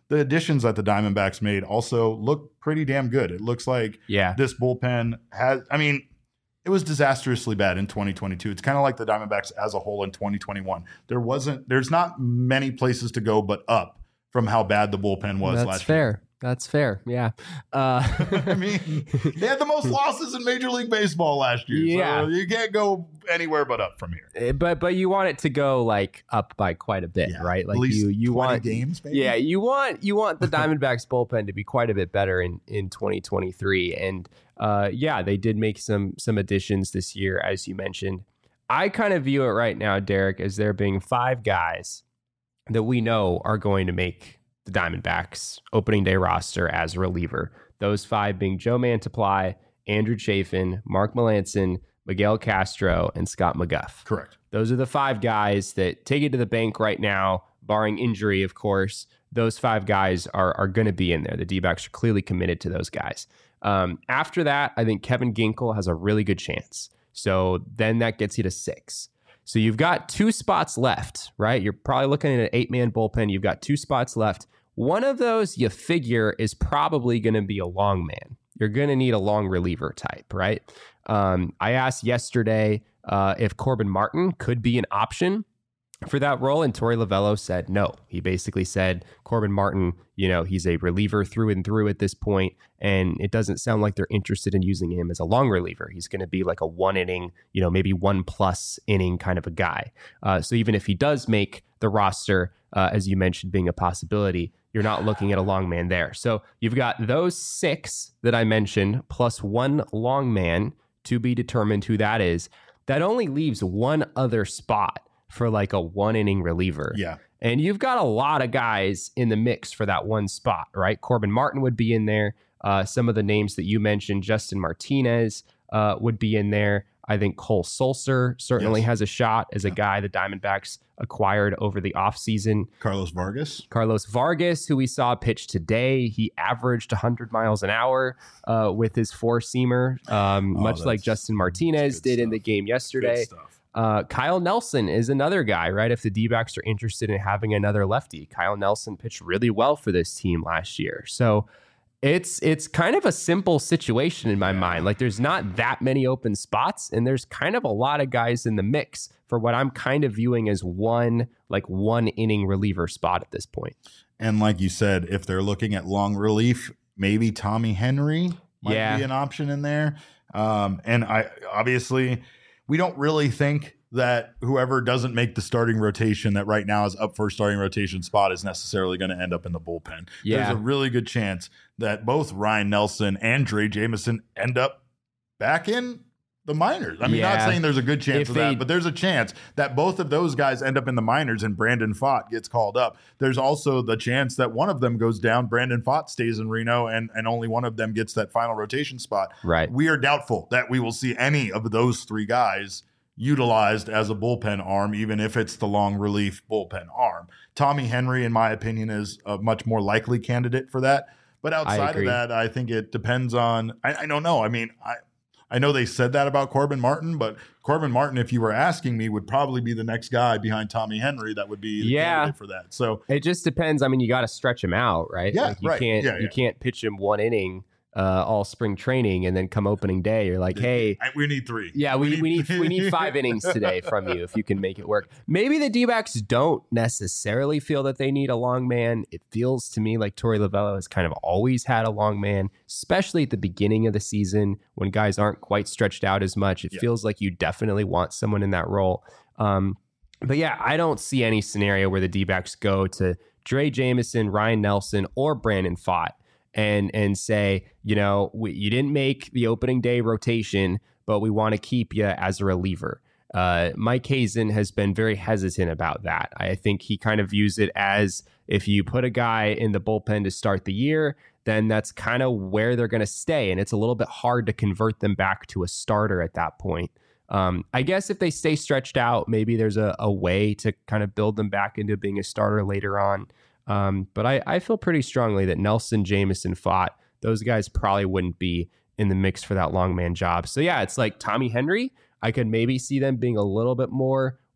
Speaker 1: the additions that the Diamondbacks made also look pretty damn good. It looks like
Speaker 2: Yeah.
Speaker 1: this bullpen has, I mean, it was disastrously bad in twenty twenty-two. It's kind of like the Diamondbacks as a whole in twenty twenty-one. There wasn't, there's not many places to go but up from how bad the bullpen was
Speaker 2: That's
Speaker 1: last
Speaker 2: fair.
Speaker 1: year.
Speaker 2: That's fair. Yeah. Uh,
Speaker 1: I mean, they had the most losses in Major League Baseball last year.
Speaker 2: Yeah.
Speaker 1: So you can't go anywhere but up from here.
Speaker 2: but but you want it to go like up by quite a bit,
Speaker 1: Yeah,
Speaker 2: right? Like
Speaker 1: at least
Speaker 2: you you
Speaker 1: twenty
Speaker 2: want
Speaker 1: games, maybe?
Speaker 2: Yeah, you want you want the Diamondbacks bullpen to be quite a bit better in in twenty twenty-three, and uh, yeah, they did make some some additions this year, as you mentioned. I kind of view it right now, Derek, as there being five guys that we know are going to make the Diamondbacks opening day roster as a reliever. Those five being Joe Mantiply, Andrew Chafin, Mark Melancon, Miguel Castro, and Scott McGuff.
Speaker 1: Correct.
Speaker 2: Those are the five guys that take it to the bank right now, barring injury, of course. Those five guys are, are going to be in there. The D-backs are clearly committed to those guys. Um, after that, I think Kevin Ginkel has a really good chance. So then that gets you to six. So you've got two spots left, right? You're probably looking at an eight-man bullpen. You've got two spots left. One of those you figure is probably going to be a long man. You're going to need a long reliever type, right? Um, I asked yesterday uh, if Corbin Martin could be an option for that role, and Torey Lovullo said no. He basically said Corbin Martin, you know, he's a reliever through and through at this point, and it doesn't sound like they're interested in using him as a long reliever. He's going to be like a one inning, you know, maybe one plus inning kind of a guy. Uh, so even if he does make the roster, uh, as you mentioned, being a possibility, you're not looking at a long man there. So you've got those six that I mentioned, plus one long man to be determined who that is. That only leaves one other spot for like a one inning reliever.
Speaker 1: Yeah.
Speaker 2: And you've got a lot of guys in the mix for that one spot, right? Corbin Martin would be in there. Uh, some of the names that you mentioned, Justin Martinez uh, would be in there. I think Cole Sulser certainly
Speaker 1: Yes.
Speaker 2: has a shot as a
Speaker 1: Yeah.
Speaker 2: guy the Diamondbacks acquired over the offseason.
Speaker 1: Carlos Vargas.
Speaker 2: Carlos Vargas, who we saw pitch today, he averaged one hundred miles an hour uh, with his four-seamer, um,
Speaker 1: Oh,
Speaker 2: much like
Speaker 1: that's-
Speaker 2: Justin Martinez
Speaker 1: good
Speaker 2: did in the
Speaker 1: stuff.
Speaker 2: game yesterday.
Speaker 1: Good stuff.
Speaker 2: Uh, Kyle Nelson is another guy, right? If the D-backs are interested in having another lefty, Kyle Nelson pitched really well for this team last year. So it's it's kind of a simple situation in my mind. Like there's not that many open spots, and there's kind of a lot of guys in the mix for what I'm kind of viewing as one like one inning reliever spot at this point.
Speaker 1: And like you said, if they're looking at long relief, maybe Tommy Henry might
Speaker 2: Yeah.
Speaker 1: be an option in there. Um, and I obviously we don't really think that whoever doesn't make the starting rotation that right now is up for a starting rotation spot is necessarily going to end up in the bullpen.
Speaker 2: Yeah.
Speaker 1: There's a really good chance that both Ryan Nelson and Dre Jameson end up back in the minors. I mean,
Speaker 2: Yeah.
Speaker 1: not saying there's a good chance
Speaker 2: If
Speaker 1: of
Speaker 2: they-
Speaker 1: that, but there's a chance that both of those guys end up in the minors and Brandon Pfaadt gets called up. There's also the chance that one of them goes down, Brandon Pfaadt stays in Reno, and, and only one of them gets that final rotation spot.
Speaker 2: Right.
Speaker 1: We are doubtful that we will see any of those three guys utilized as a bullpen arm, even if it's the long relief bullpen arm. Tommy Henry, in my opinion, is a much more likely candidate for that. But outside of
Speaker 2: agree.
Speaker 1: that, I think it depends on, I, I don't know. I mean, I, I know they said that about Corbin Martin, but Corbin Martin, if you were asking me, would probably be the next guy behind Tommy Henry that would be the
Speaker 2: Yeah.
Speaker 1: candidate for that. So
Speaker 2: It just depends. I mean, you got to stretch him out, right?
Speaker 1: Yeah,
Speaker 2: like you
Speaker 1: right.
Speaker 2: can't
Speaker 1: Yeah,
Speaker 2: you
Speaker 1: yeah.
Speaker 2: can't pitch him one inning uh, all spring training and then come opening day, you're like, hey,
Speaker 1: I, we need three.
Speaker 2: yeah, we, we need we need five innings today from you if you can make it work. Maybe the D-backs don't necessarily feel that they need a long man. It feels to me like Torey Lovullo has kind of always had a long man, especially at the beginning of the season when guys aren't quite stretched out as much. It
Speaker 1: Yeah.
Speaker 2: feels like you definitely want someone in that role. Um, but yeah, I don't see any scenario where the D-backs go to Dre Jameson, Ryan Nelson, or Brandon Pfaadt and and say, you know, we, you didn't make the opening day rotation, but we want to keep you as a reliever. Uh, Mike Hazen has been very hesitant about that. I think he kind of views it as if you put a guy in the bullpen to start the year, then that's kind of where they're going to stay. And it's a little bit hard to convert them back to a starter at that point. Um, I guess if they stay stretched out, maybe there's a, a way to kind of build them back into being a starter later on. Um, but I, I feel pretty strongly that Nelson, Jameson, Pfaadt, those guys probably wouldn't be in the mix for that long man job. So yeah, it's like Tommy Henry. I could maybe see them being a little bit more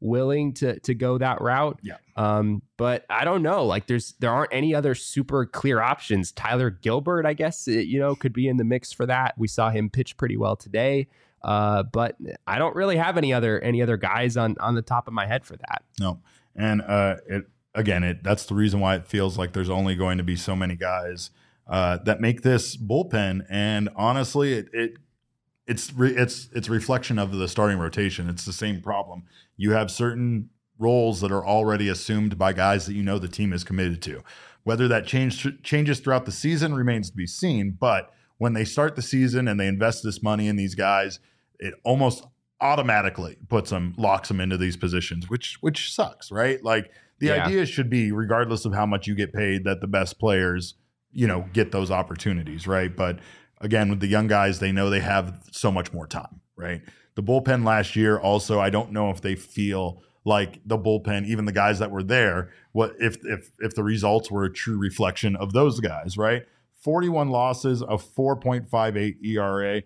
Speaker 2: willing to to go that route.
Speaker 1: Yeah.
Speaker 2: Um, but I don't know. Like there's there aren't any other super clear options. Tyler Gilbert, I guess, you know, could be in the mix for that. We saw him pitch pretty well today. Uh, but I don't really have any other any other guys on on the top of my head for that.
Speaker 1: No. And uh, it again, it that's the reason why it feels like there's only going to be so many guys uh, that make this bullpen. And honestly, it, it it's re, it's it's a reflection of the starting rotation. It's the same problem. You have certain roles that are already assumed by guys that you know the team is committed to. Whether that change changes throughout the season remains to be seen. But when they start the season and they invest this money in these guys, it almost automatically puts them, locks them into these positions, which which sucks, right? Like the
Speaker 2: Yeah.
Speaker 1: idea should be, regardless of how much you get paid, that the best players, you know, get those opportunities, right? But again, with the young guys, they know they have so much more time, right? The bullpen last year also, I don't know if they feel like the bullpen, even the guys that were there, what if if if the results were a true reflection of those guys, right? forty-one losses, a four point five eight E R A.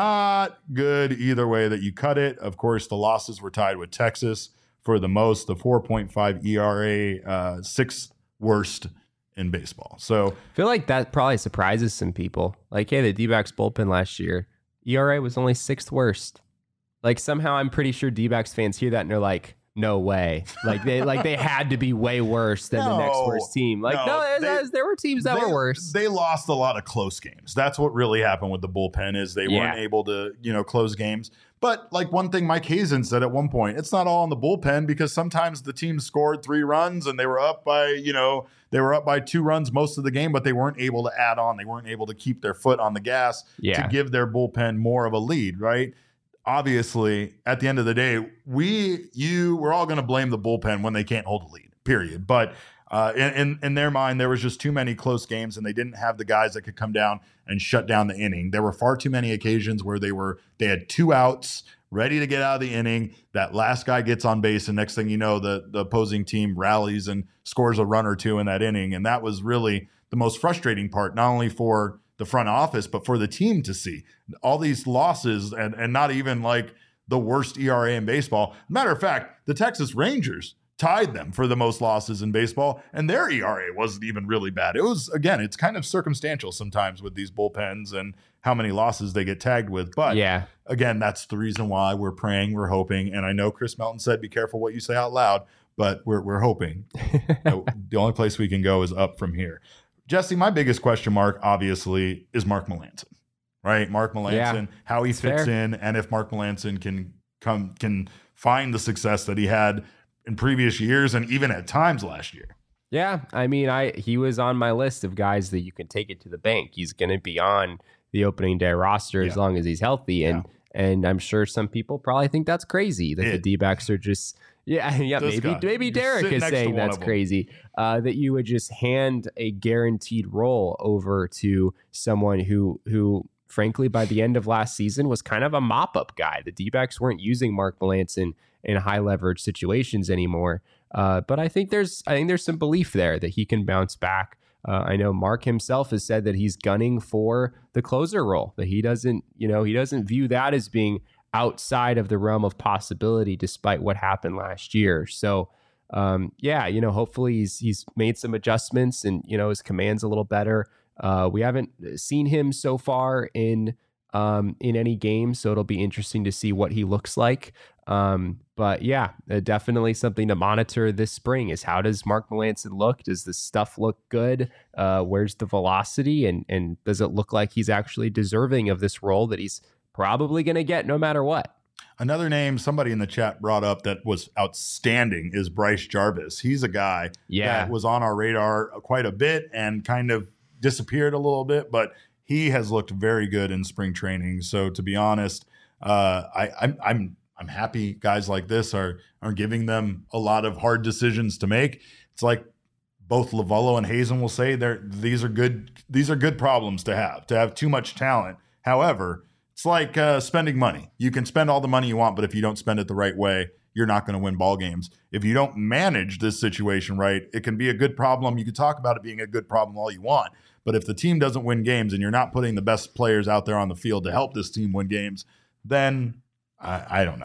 Speaker 1: Not good either way that you cut it. Of course, the losses were tied with Texas for the most, the four point five E R A, uh, sixth worst in baseball. So
Speaker 2: I feel like that probably surprises some people. Like, hey, the D-backs bullpen last year, E R A was only sixth worst. Like somehow I'm pretty sure D-backs fans hear that and they're like, no way. Like they like they had to be way worse than
Speaker 1: No,
Speaker 2: the next worst team. Like,
Speaker 1: no,
Speaker 2: no,
Speaker 1: they-
Speaker 2: there were teams that
Speaker 1: they,
Speaker 2: were worse.
Speaker 1: They lost a lot of close games. That's what really happened with the bullpen is they
Speaker 2: Yeah.
Speaker 1: weren't able to, you know, close games. But like one thing Mike Hazen said at one point, it's not all in the bullpen because sometimes the team scored three runs and they were up by, you know, they were up by two runs most of the game, but they weren't able to add on. They weren't able to keep their foot on the gas
Speaker 2: Yeah.
Speaker 1: to give their bullpen more of a lead, right? Obviously, at the end of the day, we, you, we're all going to blame the bullpen when they can't hold a lead, period. But uh, in, in in their mind, there was just too many close games, and they didn't have the guys that could come down and shut down the inning. There were far too many occasions where they were they had two outs, ready to get out of the inning. That last guy gets on base, and next thing you know, the the opposing team rallies and scores a run or two in that inning, and that was really the most frustrating part, not only for the front office, but for the team to see all these losses and, and not even like the worst E R A in baseball. Matter of fact, the Texas Rangers tied them for the most losses in baseball, and their E R A wasn't even really bad. It was, again, it's kind of circumstantial sometimes with these bullpens and how many losses they get tagged with. But
Speaker 2: Yeah.
Speaker 1: again, that's the reason why we're praying, we're hoping. And I know Chris Melton said, be careful what you say out loud, but we're, we're hoping that the only place we can go is up from here. Jesse, my biggest question mark, obviously, is Mark Melancon, right? Mark Melancon,
Speaker 2: Yeah,
Speaker 1: how he
Speaker 2: it's
Speaker 1: fits
Speaker 2: fair.
Speaker 1: in, and if Mark Melancon can come can find the success that he had in previous years and even at times last year.
Speaker 2: Yeah, I mean, I he was on my list of guys that you can take it to the bank. He's going to be on the opening day roster as
Speaker 1: Yeah.
Speaker 2: long as he's healthy, and and I'm sure some people probably think that's crazy that the
Speaker 1: It-
Speaker 2: D-backs are just yeah yeah
Speaker 1: This
Speaker 2: maybe
Speaker 1: guy.
Speaker 2: maybe
Speaker 1: You're
Speaker 2: Derek
Speaker 1: sitting
Speaker 2: is
Speaker 1: next to
Speaker 2: saying
Speaker 1: one
Speaker 2: that's
Speaker 1: of 'em.
Speaker 2: crazy uh, that you would just hand a guaranteed role over to someone who who frankly by the end of last season was kind of a mop-up guy. The D-backs weren't using Mark Melancon in high leverage situations anymore. Uh, but I think there's I think there's some belief there that he can bounce back. Uh, I know Mark himself has said that he's gunning for the closer role, that he doesn't, you know, he doesn't view that as being outside of the realm of possibility, despite what happened last year. So, um, yeah, you know, hopefully he's he's made some adjustments and you know his command's a little better. Uh, we haven't seen him so far in um, in any game, so it'll be interesting to see what he looks like. Um, but yeah, uh, definitely something to monitor this spring is how does Mark Melancon look? Does the stuff look good? Uh, where's the velocity? And, and does it look like he's actually deserving of this role that he's probably going to get no matter what?
Speaker 1: Another name somebody in the chat brought up that was outstanding is Bryce Jarvis. He's a guy
Speaker 2: Yeah.
Speaker 1: that was on our radar quite a bit and kind of disappeared a little bit, but he has looked very good in spring training. So to be honest, uh, I, I'm I'm I'm happy guys like this are are giving them a lot of hard decisions to make. It's like both Lavallo and Hazen will say they're these are good these are good problems to have, to have too much talent. However, it's like uh, spending money. You can spend all the money you want, but if you don't spend it the right way, you're not going to win ball games. If you don't manage this situation right, it can be a good problem. You can talk about it being a good problem all you want, but if the team doesn't win games and you're not putting the best players out there on the field to help this team win games, then I, I don't know.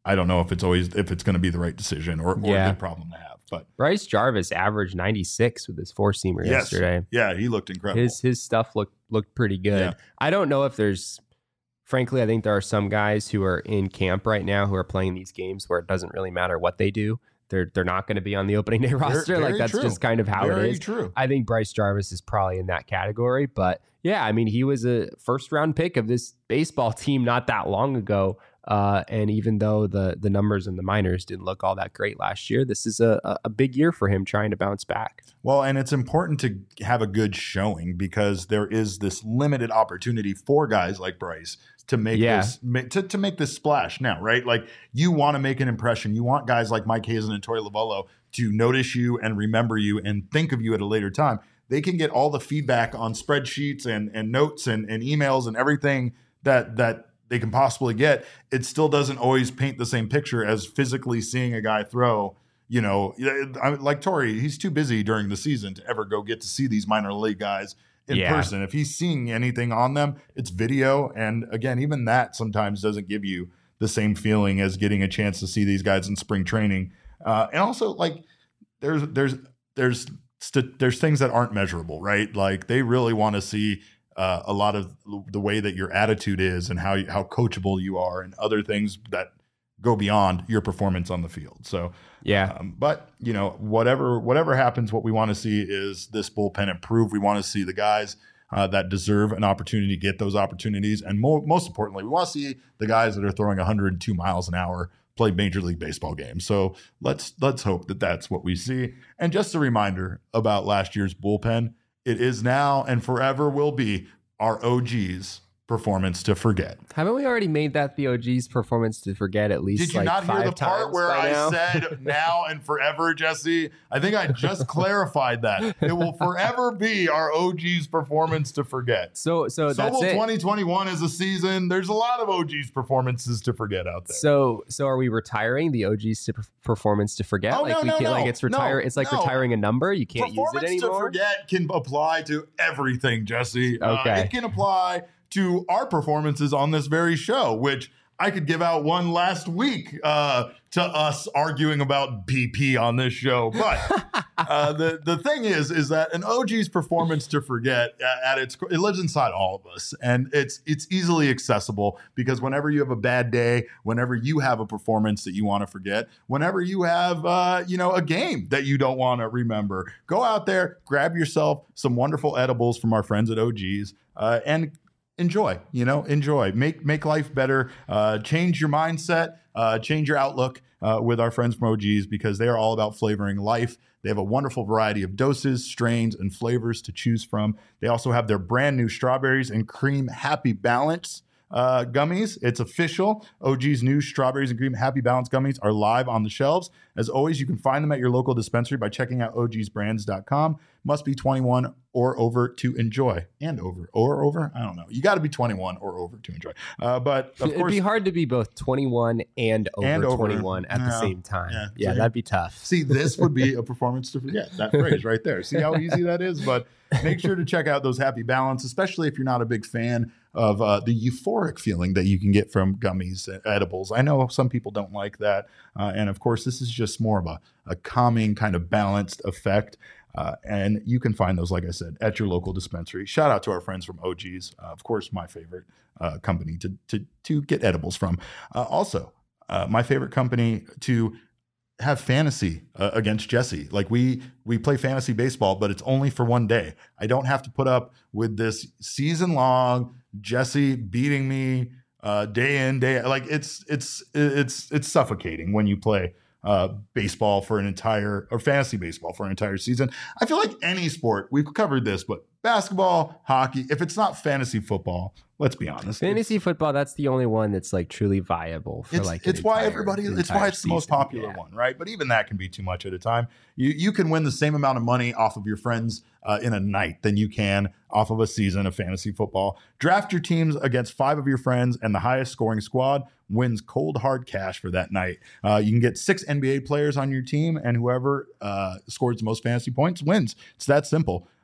Speaker 1: I don't know if it's always if it's going to be the right decision or, or
Speaker 2: Yeah.
Speaker 1: a good problem to have. But
Speaker 2: Bryce Jarvis averaged ninety-six with his four seamer
Speaker 1: yes,
Speaker 2: yesterday.
Speaker 1: yeah, he looked incredible.
Speaker 2: His his stuff looked looked pretty good.
Speaker 1: Yeah.
Speaker 2: I don't know if there's, frankly, I think there are some guys who are in camp right now who are playing these games where it doesn't really matter what they do. They're they're not going to be on the opening day roster.
Speaker 1: Very
Speaker 2: Like that's
Speaker 1: true.
Speaker 2: just kind of how
Speaker 1: Very
Speaker 2: it is.
Speaker 1: true.
Speaker 2: I think Bryce Jarvis is probably in that category. But yeah, I mean, he was a first round pick of this baseball team not that long ago. Uh, and even though the the numbers in the minors didn't look all that great last year, this is a, a big year for him trying to bounce back.
Speaker 1: Well, and it's important to have a good showing because there is this limited opportunity for guys like Bryce to make
Speaker 2: Yeah.
Speaker 1: this ma- to, to make this splash now, right? Like you want to make an impression. You want guys like Mike Hazen and Torey Lovullo to notice you and remember you and think of you at a later time. They can get all the feedback on spreadsheets and and notes and, and emails and everything that that they can possibly get. It still doesn't always paint the same picture as physically seeing a guy throw. You know, I- like Torey, he's too busy during the season to ever go get to see these minor league guys in
Speaker 2: Yeah.
Speaker 1: person. If he's seeing anything on them, it's video. And again, even that sometimes doesn't give you the same feeling as getting a chance to see these guys in spring training. Uh, and also, like, there's there's there's st- there's things that aren't measurable, right? Like they really want to see uh, a lot of the way that your attitude is and how you, how coachable you are, and other things that go beyond your performance on the field. So,
Speaker 2: Yeah.
Speaker 1: um, but you know, whatever whatever happens, what we want to see is this bullpen improve. We want to see the guys uh, that deserve an opportunity get those opportunities, and mo- most importantly, we want to see the guys that are throwing one hundred two miles an hour play Major League Baseball games. So let's let's hope that that's what we see. And just a reminder about last year's bullpen: it is now and forever will be our O G's performance to forget.
Speaker 2: Haven't we already made that the O G's performance to forget at least
Speaker 1: Did you
Speaker 2: like
Speaker 1: not hear
Speaker 2: five
Speaker 1: the part
Speaker 2: times
Speaker 1: where
Speaker 2: by
Speaker 1: I
Speaker 2: now?
Speaker 1: said now and forever, Jesse? I think I just clarified that. It will forever be our O G's performance to forget.
Speaker 2: So so
Speaker 1: So
Speaker 2: that's
Speaker 1: will
Speaker 2: it.
Speaker 1: twenty twenty-one as a season. There's a lot of O G's performances to forget out there.
Speaker 2: So so are we retiring the O G's to per- performance to forget?
Speaker 1: Oh,
Speaker 2: like
Speaker 1: no,
Speaker 2: we
Speaker 1: no,
Speaker 2: can't
Speaker 1: no.
Speaker 2: like it's retire
Speaker 1: No,
Speaker 2: it's like
Speaker 1: no.
Speaker 2: retiring a number. You can't use it
Speaker 1: Performance to
Speaker 2: anymore.
Speaker 1: forget can apply to everything, Jesse. Uh,
Speaker 2: Okay.
Speaker 1: it can apply to our performances on this very show, which I could give out one last week uh, to us arguing about B P on this show. But uh, the the thing is, is that an O G's performance to forget uh, at its it lives inside all of us, and it's it's easily accessible because whenever you have a bad day, whenever you have a performance that you want to forget, whenever you have uh, you know a game that you don't want to remember, go out there, grab yourself some wonderful edibles from our friends at O G's, uh, and enjoy, you know, enjoy, make, make life better, uh, change your mindset, uh, change your outlook, uh, with our friends from O G's because they are all about flavoring life. They have a wonderful variety of doses, strains, and flavors to choose from. They also have their brand new strawberries and cream Happy Balance uh, gummies. It's official. O G's new strawberries and cream Happy Balance gummies are live on the shelves. As always, you can find them at your local dispensary by checking out O Gs brands dot com. Must be twenty-one or over to enjoy. And over. Or over? I don't know. You got to be twenty-one or over to enjoy. Uh, but of
Speaker 2: It'd
Speaker 1: course,
Speaker 2: be hard to be both twenty-one and over,
Speaker 1: And over.
Speaker 2: twenty-one at the
Speaker 1: Yeah.
Speaker 2: same time.
Speaker 1: Yeah.
Speaker 2: Yeah,
Speaker 1: So
Speaker 2: that'd be tough.
Speaker 1: see, this would be a performance to forget. That phrase right there. See how easy that is? But make sure to check out those Happy Balance, especially if you're not a big fan of uh, the euphoric feeling that you can get from gummies and edibles. I know some people don't like that. Uh, and of course, this is just more of a, a calming kind of balanced effect. Uh, and you can find those, like I said, at your local dispensary. Shout out to our friends from O G's. Uh, of course, my favorite uh, company to, to, to get edibles from. Uh, also, uh, my favorite company to have fantasy uh, against Jesse. Like we we play fantasy baseball, but it's only for one day. I don't have to put up with this season long Jesse beating me uh, day in day out. Like it's it's it's it's suffocating when you play uh, baseball for an entire or fantasy baseball for an entire season. I feel like any sport, we've covered this, but basketball, hockey, if it's not fantasy football, let's be honest.
Speaker 2: Fantasy football, that's the only one that's like truly viable for
Speaker 1: It's,
Speaker 2: like an
Speaker 1: it's why
Speaker 2: entire-
Speaker 1: everybody
Speaker 2: an
Speaker 1: it's why
Speaker 2: entire
Speaker 1: it's the most
Speaker 2: season.
Speaker 1: popular
Speaker 2: Yeah.
Speaker 1: one, right? But even that can be too much at a time. You you can win the same amount of money off of your friends uh, in a night than you can off of a season of fantasy football. Draft your teams against five of your friends, and the highest scoring squad wins cold hard cash for that night. Uh, you can get six N B A players on your team, and whoever uh, scores the most fantasy points wins. It's that simple.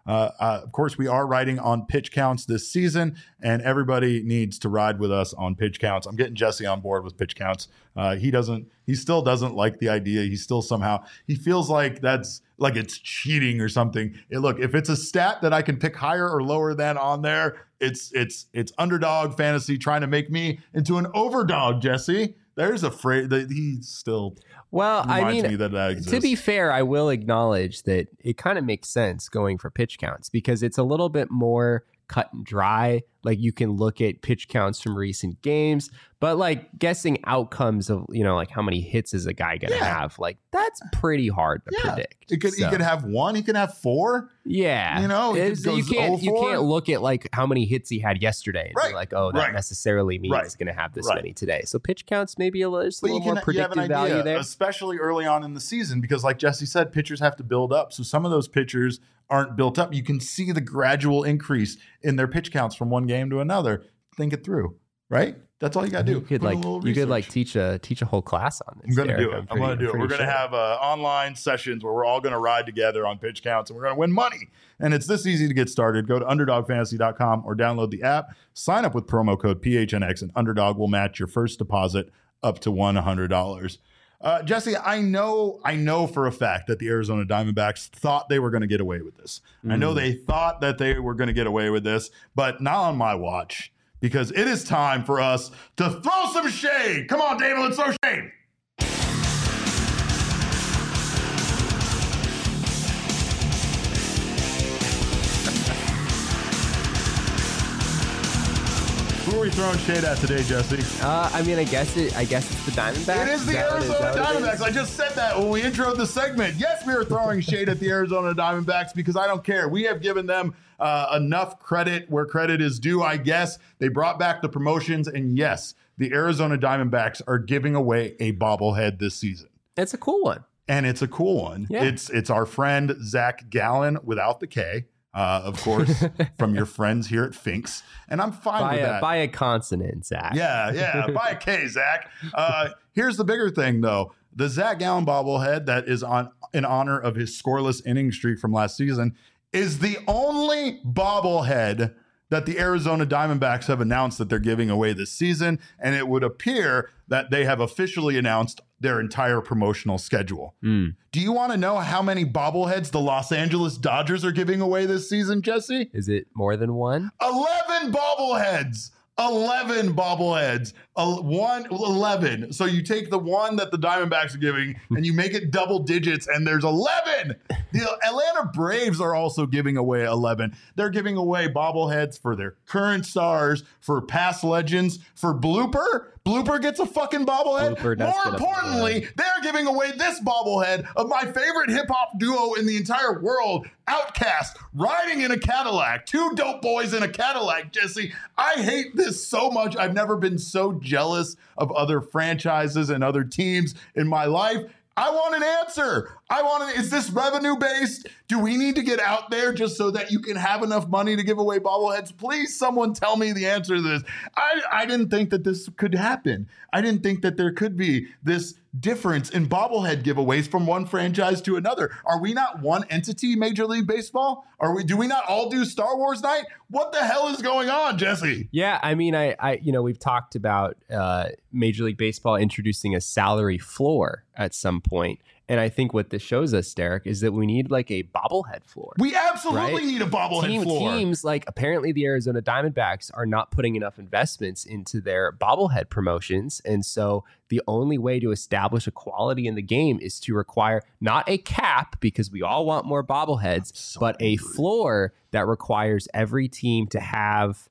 Speaker 1: Uh, uh, of course, we are riding on pitch counts this season, and everybody needs to ride with us on pitch counts. I'm getting Jesse on board with pitch counts. Uh, he doesn't, he still doesn't like the idea. He still somehow, he feels like that's like it's cheating or something. It, look, if it's a stat that I can pick higher or lower than on there, it's, it's, it's underdog fantasy trying to make me into an overdog, Jesse. There's a phrase that he still
Speaker 2: well, I mean,
Speaker 1: me that that exists.
Speaker 2: To be fair, I will acknowledge that it kind of makes sense going for pitch counts because it's a little bit more cut and dry. Like you can look at pitch counts from recent games, but like guessing outcomes of, you know, like how many hits is a guy going to
Speaker 1: Yeah.
Speaker 2: have? Like that's pretty hard to
Speaker 1: Yeah.
Speaker 2: predict.
Speaker 1: It could,
Speaker 2: So,
Speaker 1: he could have one, he could have four.
Speaker 2: yeah.
Speaker 1: You know, it
Speaker 2: It's-
Speaker 1: goes
Speaker 2: you can't you
Speaker 1: oh four.
Speaker 2: can't look at like how many hits he had yesterday and
Speaker 1: Right.
Speaker 2: be like, oh, that
Speaker 1: Right.
Speaker 2: necessarily means
Speaker 1: Right.
Speaker 2: he's going to have this
Speaker 1: Right.
Speaker 2: many today. So pitch counts maybe a little, just a
Speaker 1: But you
Speaker 2: little
Speaker 1: can
Speaker 2: more
Speaker 1: you have an
Speaker 2: predictive
Speaker 1: idea,
Speaker 2: value there.
Speaker 1: especially early on in the season, because like Jesse said, pitchers have to build up. So some of those pitchers aren't built up. You can see the gradual increase in their pitch counts from one game to another. Think it through, right? That's all you got to do.
Speaker 2: You could
Speaker 1: Put a
Speaker 2: like
Speaker 1: little
Speaker 2: you could like
Speaker 1: research.
Speaker 2: teach a teach a whole class on this.
Speaker 1: I'm going to
Speaker 2: Derek.
Speaker 1: do it. I'm,
Speaker 2: pretty-
Speaker 1: going to do it.
Speaker 2: pretty
Speaker 1: We're going to
Speaker 2: sure.
Speaker 1: have uh, online sessions where we're all going to ride together on pitch counts and we're going to win money. And it's this easy to get started. Go to underdog fantasy dot com or download the app. Sign up with promo code P H N X and Underdog will match your first deposit up to one hundred dollars. Uh, Jesse, I know, I know for a fact that the Arizona Diamondbacks thought they were going to get away with this. Mm. I know they thought that they were going to get away with this, but not on my watch. Because it is time for us to throw some shade. Come on, David, let's throw shade. Who are we throwing shade at today, Jesse?
Speaker 2: Uh, I mean, I guess it. I guess it's the Diamondbacks.
Speaker 1: It is the
Speaker 2: Is that what- is
Speaker 1: Arizona
Speaker 2: that what it is?
Speaker 1: Diamondbacks. I just said that when we introed the segment. Yes, we are throwing shade at the Arizona Diamondbacks because I don't care. We have given them uh, enough credit where credit is due, I guess. They brought back the promotions, and yes, the Arizona Diamondbacks are giving away a bobblehead this season.
Speaker 2: It's a cool one.
Speaker 1: And it's a cool one.
Speaker 2: Yeah.
Speaker 1: It's it's our friend Zach Gallen without the K, uh, of course, from your friends here at Finks. And I'm fine
Speaker 2: By
Speaker 1: with
Speaker 2: a
Speaker 1: that.
Speaker 2: by a consonant, Zach.
Speaker 1: Yeah, yeah. Buy a K, Zach. Uh, here's the bigger thing, though. The Zach Gallen bobblehead that is on in honor of his scoreless inning streak from last season is the only bobblehead that the Arizona Diamondbacks have announced that they're giving away this season. And it would appear that they have officially announced their entire promotional schedule.
Speaker 2: Mm.
Speaker 1: Do you want to know how many bobbleheads the Los Angeles Dodgers are giving away this season, Jesse?
Speaker 2: Is it more than one?
Speaker 1: eleven bobbleheads. eleven bobbleheads. Uh, one, eleven. So you take the one that the Diamondbacks are giving and you make it double digits, and there's eleven. The Atlanta Braves are also giving away eleven. They're giving away bobbleheads for their current stars, for past legends, for Blooper. Blooper gets a fucking bobblehead.
Speaker 2: Blooper does
Speaker 1: More
Speaker 2: get a
Speaker 1: importantly,
Speaker 2: bobblehead.
Speaker 1: they're giving away this bobblehead of my favorite hip hop duo in the entire world, Outkast, riding in a Cadillac. Two dope boys in a Cadillac, Jesse. I hate this so much. I've never been so jealous of other franchises and other teams in my life. I want an answer. I want an, is this revenue based? Do we need to get out there just so that you can have enough money to give away bobbleheads? Please, someone tell me the answer to this. I, I didn't think that this could happen. I didn't think that there could be this difference in bobblehead giveaways from one franchise to another. Are we not one entity, Major League Baseball? Are we? Do we not all do Star Wars night? What the hell is going on, Jesse?
Speaker 2: Yeah, I mean, I, I, you know, we've talked about uh, Major League Baseball introducing a salary floor at some point, and I think what this shows us, Derek, is that we need like a bobblehead floor.
Speaker 1: We absolutely
Speaker 2: Right?
Speaker 1: need a bobblehead
Speaker 2: Team,
Speaker 1: floor.
Speaker 2: Teams like apparently the Arizona Diamondbacks are not putting enough investments into their bobblehead promotions, and so the only way to establish equality in the game is to require not a cap, because we all want more bobbleheads,
Speaker 1: so
Speaker 2: but a
Speaker 1: angry.
Speaker 2: floor that requires every team to have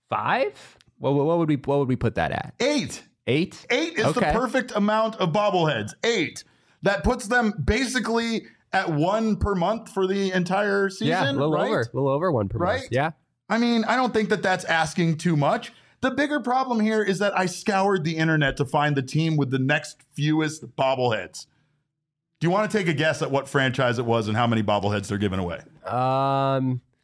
Speaker 2: five. What, what would we what would we put that at?
Speaker 1: Eight.
Speaker 2: Eight.
Speaker 1: Eight is
Speaker 2: Okay.
Speaker 1: the perfect amount of bobbleheads. Eight. That puts them basically at one per month for the entire season.
Speaker 2: Yeah, a little
Speaker 1: right?
Speaker 2: over, a little over one per
Speaker 1: Right?
Speaker 2: month. Yeah.
Speaker 1: I mean, I don't think that that's asking too much. The bigger problem here is that I scoured the internet to find the team with the next fewest bobbleheads. Do you want to take a guess at what franchise it was and how many bobbleheads they're giving away?
Speaker 2: Um,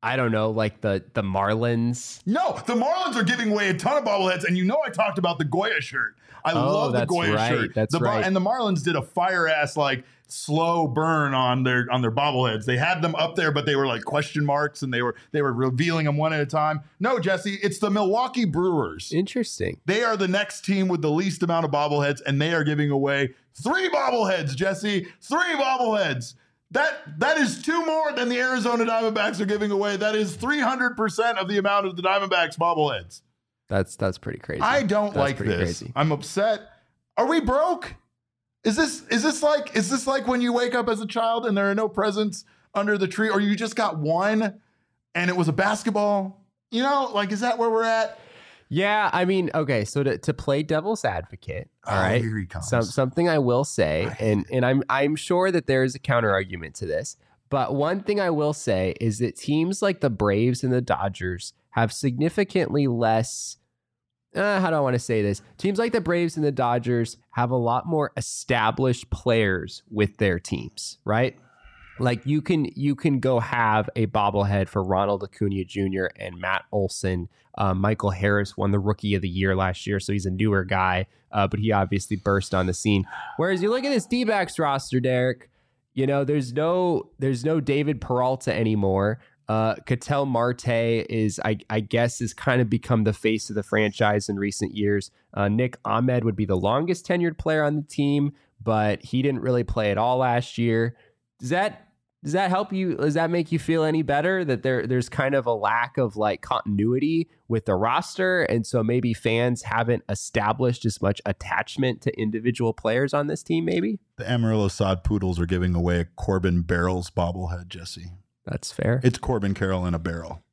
Speaker 2: I don't know, like the the Marlins.
Speaker 1: No, the Marlins are giving away a ton of bobbleheads, and you know I talked about the Goya shirt. I
Speaker 2: Oh,
Speaker 1: love the
Speaker 2: that's
Speaker 1: Goya
Speaker 2: right,
Speaker 1: shirt.
Speaker 2: that's
Speaker 1: the,
Speaker 2: right.
Speaker 1: And the Marlins did a fire ass like slow burn on their on their bobbleheads. They had them up there, but they were like question marks, and they were they were revealing them one at a time. No, Jesse, it's the Milwaukee Brewers.
Speaker 2: Interesting.
Speaker 1: They are the next team with the least amount of bobbleheads, and they are giving away three bobbleheads, Jesse. Three bobbleheads. That that is two more than the Arizona Diamondbacks are giving away. That is three hundred percent of the amount of the Diamondbacks bobbleheads.
Speaker 2: That's that's pretty crazy.
Speaker 1: I don't
Speaker 2: That's
Speaker 1: like
Speaker 2: pretty
Speaker 1: this.
Speaker 2: crazy.
Speaker 1: I'm upset. Are we broke? Is this is this like is this like when you wake up as a child and there are no presents under the tree, or you just got one and it was a basketball? You know, like is that where we're at?
Speaker 2: Yeah, I mean, okay, so to, to play devil's advocate, all
Speaker 1: Oh,
Speaker 2: right,
Speaker 1: here he comes.
Speaker 2: some, something I will say, and and I'm I'm sure that there is a counter argument to this, but one thing I will say is that teams like the Braves and the Dodgers have significantly less. Uh, how do I want to say this? Teams like the Braves and the Dodgers have a lot more established players with their teams, right? Like you can you can go have a bobblehead for Ronald Acuna Junior and Matt Olson. Uh, Michael Harris won the Rookie of the Year last year, so he's a newer guy, uh, but he obviously burst on the scene. Whereas you look at this D-backs roster, Derek, you know there's no there's no David Peralta anymore. Uh, Ketel Marte is, I, I guess, has kind of become the face of the franchise in recent years. Uh, Nick Ahmed would be the longest tenured player on the team, but he didn't really play at all last year. Does that does that help you? Does that make you feel any better that there there's kind of a lack of like continuity with the roster, and so maybe fans haven't established as much attachment to individual players on this team? Maybe
Speaker 1: The Amarillo Sod Poodles are giving away a Corbin Barrels bobblehead, Jesse.
Speaker 2: that's fair.
Speaker 1: It's Corbin Carroll in a barrel.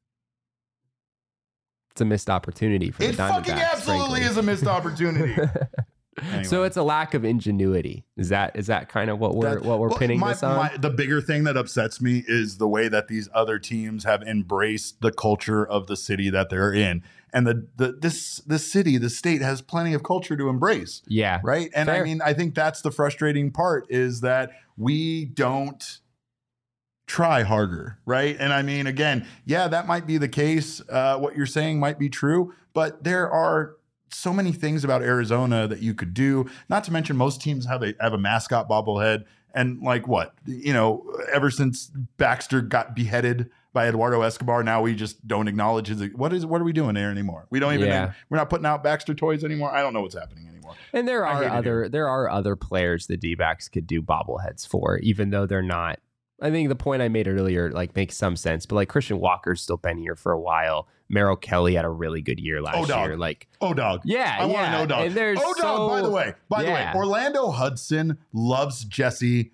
Speaker 2: It's a missed opportunity for
Speaker 1: It
Speaker 2: the Diamondbacks.
Speaker 1: fucking absolutely
Speaker 2: frankly.
Speaker 1: is a missed opportunity. Anyway.
Speaker 2: So it's a lack of ingenuity. Is that is that kind of what we're
Speaker 1: That-
Speaker 2: what we're
Speaker 1: well,
Speaker 2: pinning
Speaker 1: my-
Speaker 2: this on?
Speaker 1: my- the bigger thing that upsets me is the way that these other teams have embraced the culture of the city that they're in, and the the this this city, the state has plenty of culture to embrace,
Speaker 2: yeah,
Speaker 1: right? And I
Speaker 2: Fair.
Speaker 1: mean, I think that's the frustrating part is that we don't try harder, right? And I mean, again, yeah, that might be the case. Uh, what you're saying might be true, but there are so many things about Arizona that you could do. Not to mention, most teams have a have a mascot bobblehead, and like what you know, ever since Baxter got beheaded by Eduardo Escobar, now we just don't acknowledge his. What is what are we doing there anymore? We don't even.
Speaker 2: Yeah.
Speaker 1: We're not putting out Baxter toys anymore. I don't know what's happening anymore.
Speaker 2: and there
Speaker 1: I
Speaker 2: are
Speaker 1: hate it
Speaker 2: other
Speaker 1: here.
Speaker 2: there are other players the D-backs could do bobbleheads for, even though they're not. I think the point I made earlier like makes some sense, but like Christian Walker's still been here for a while. Merrill Kelly had a really good year last
Speaker 1: Oh, dog.
Speaker 2: year. Like,
Speaker 1: Oh, dog.
Speaker 2: yeah,
Speaker 1: I want to
Speaker 2: yeah.
Speaker 1: know, dog.
Speaker 2: And there's
Speaker 1: oh, dog. By
Speaker 2: so-
Speaker 1: the way, by
Speaker 2: yeah.
Speaker 1: the way, Orlando Hudson loves Jesse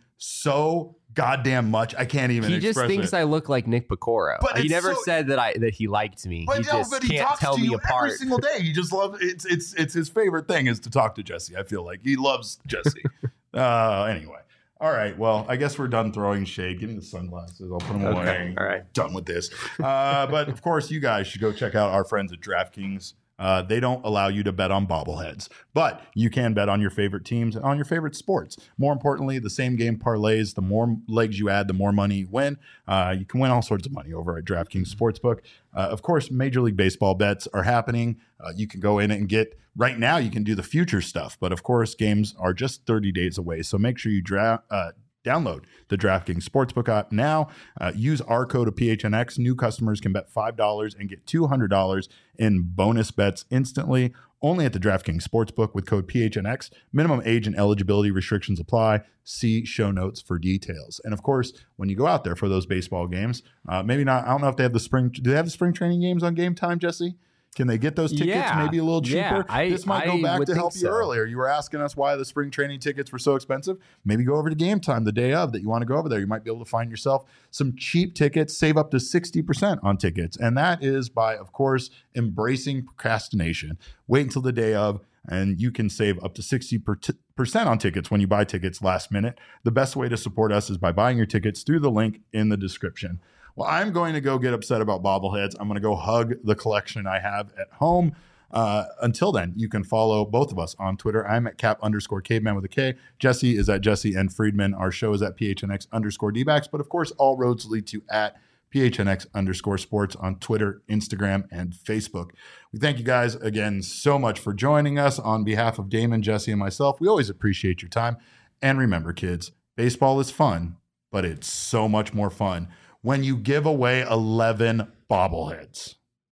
Speaker 1: so goddamn much. I can't even.
Speaker 2: he just
Speaker 1: express
Speaker 2: thinks
Speaker 1: it.
Speaker 2: I look like Nick Picoro.
Speaker 1: But
Speaker 2: He
Speaker 1: it's
Speaker 2: never
Speaker 1: so-
Speaker 2: said that I that he liked me.
Speaker 1: But
Speaker 2: he
Speaker 1: no,
Speaker 2: just
Speaker 1: but he
Speaker 2: can't
Speaker 1: talks
Speaker 2: tell
Speaker 1: to
Speaker 2: me
Speaker 1: you
Speaker 2: apart.
Speaker 1: every single day. He just loves it's it's it's his favorite thing is to talk to Jesse. I feel like he loves Jesse. uh, anyway, all right. Well, I guess we're done throwing shade. Give me the sunglasses. I'll put them
Speaker 2: Okay,
Speaker 1: away.
Speaker 2: all right.
Speaker 1: Done with this. Uh, but of course, you guys should go check out our friends at DraftKings. Uh, they don't allow you to bet on bobbleheads, but you can bet on your favorite teams and on your favorite sports. More importantly, the same game parlays, the more legs you add, the more money you win. Uh, you can win all sorts of money over at DraftKings Sportsbook. Uh, of course, Major League Baseball bets are happening. Uh, you can go in and get, right now, you can do the future stuff. But of course, games are just thirty days away. So make sure you dra- uh, download the DraftKings Sportsbook app now. Uh, use our code of P H N X. New customers can bet five dollars and get two hundred dollars in bonus bets instantly. Only at the DraftKings Sportsbook with code P H N X. Minimum age and eligibility restrictions apply. See show notes for details. And of course, when you go out there for those baseball games, uh, maybe not, I don't know if they have the spring, do they have the spring training games on Game Time, Jesse? Can they get those tickets
Speaker 2: Yeah.
Speaker 1: maybe a little cheaper?
Speaker 2: Yeah, I-
Speaker 1: this might go
Speaker 2: I
Speaker 1: back
Speaker 2: would
Speaker 1: to
Speaker 2: think
Speaker 1: help you
Speaker 2: so.
Speaker 1: earlier. You were asking us why the spring training tickets were so expensive. Maybe go over to Game Time the day of that you want to go over there. You might be able to find yourself some cheap tickets, save up to sixty percent on tickets. And that is by, of course, embracing procrastination. Wait until the day of, and you can save up to sixty percent on tickets when you buy tickets last minute. The best way to support us is by buying your tickets through the link in the description. Well, I'm going to go get upset about bobbleheads. I'm going to go hug the collection I have at home. Uh, until then, you can follow both of us on Twitter. I'm at cap underscore caveman with a K. Jesse is at Jesse and Friedman. Our show is at P H N X underscore D-backs. But of course, all roads lead to at P H N X underscore sports on Twitter, Instagram, and Facebook. We thank you guys again so much for joining us. On behalf of Damon, Jesse, and myself, we always appreciate your time. And remember, kids, baseball is fun, but it's so much more fun when you give away eleven bobbleheads.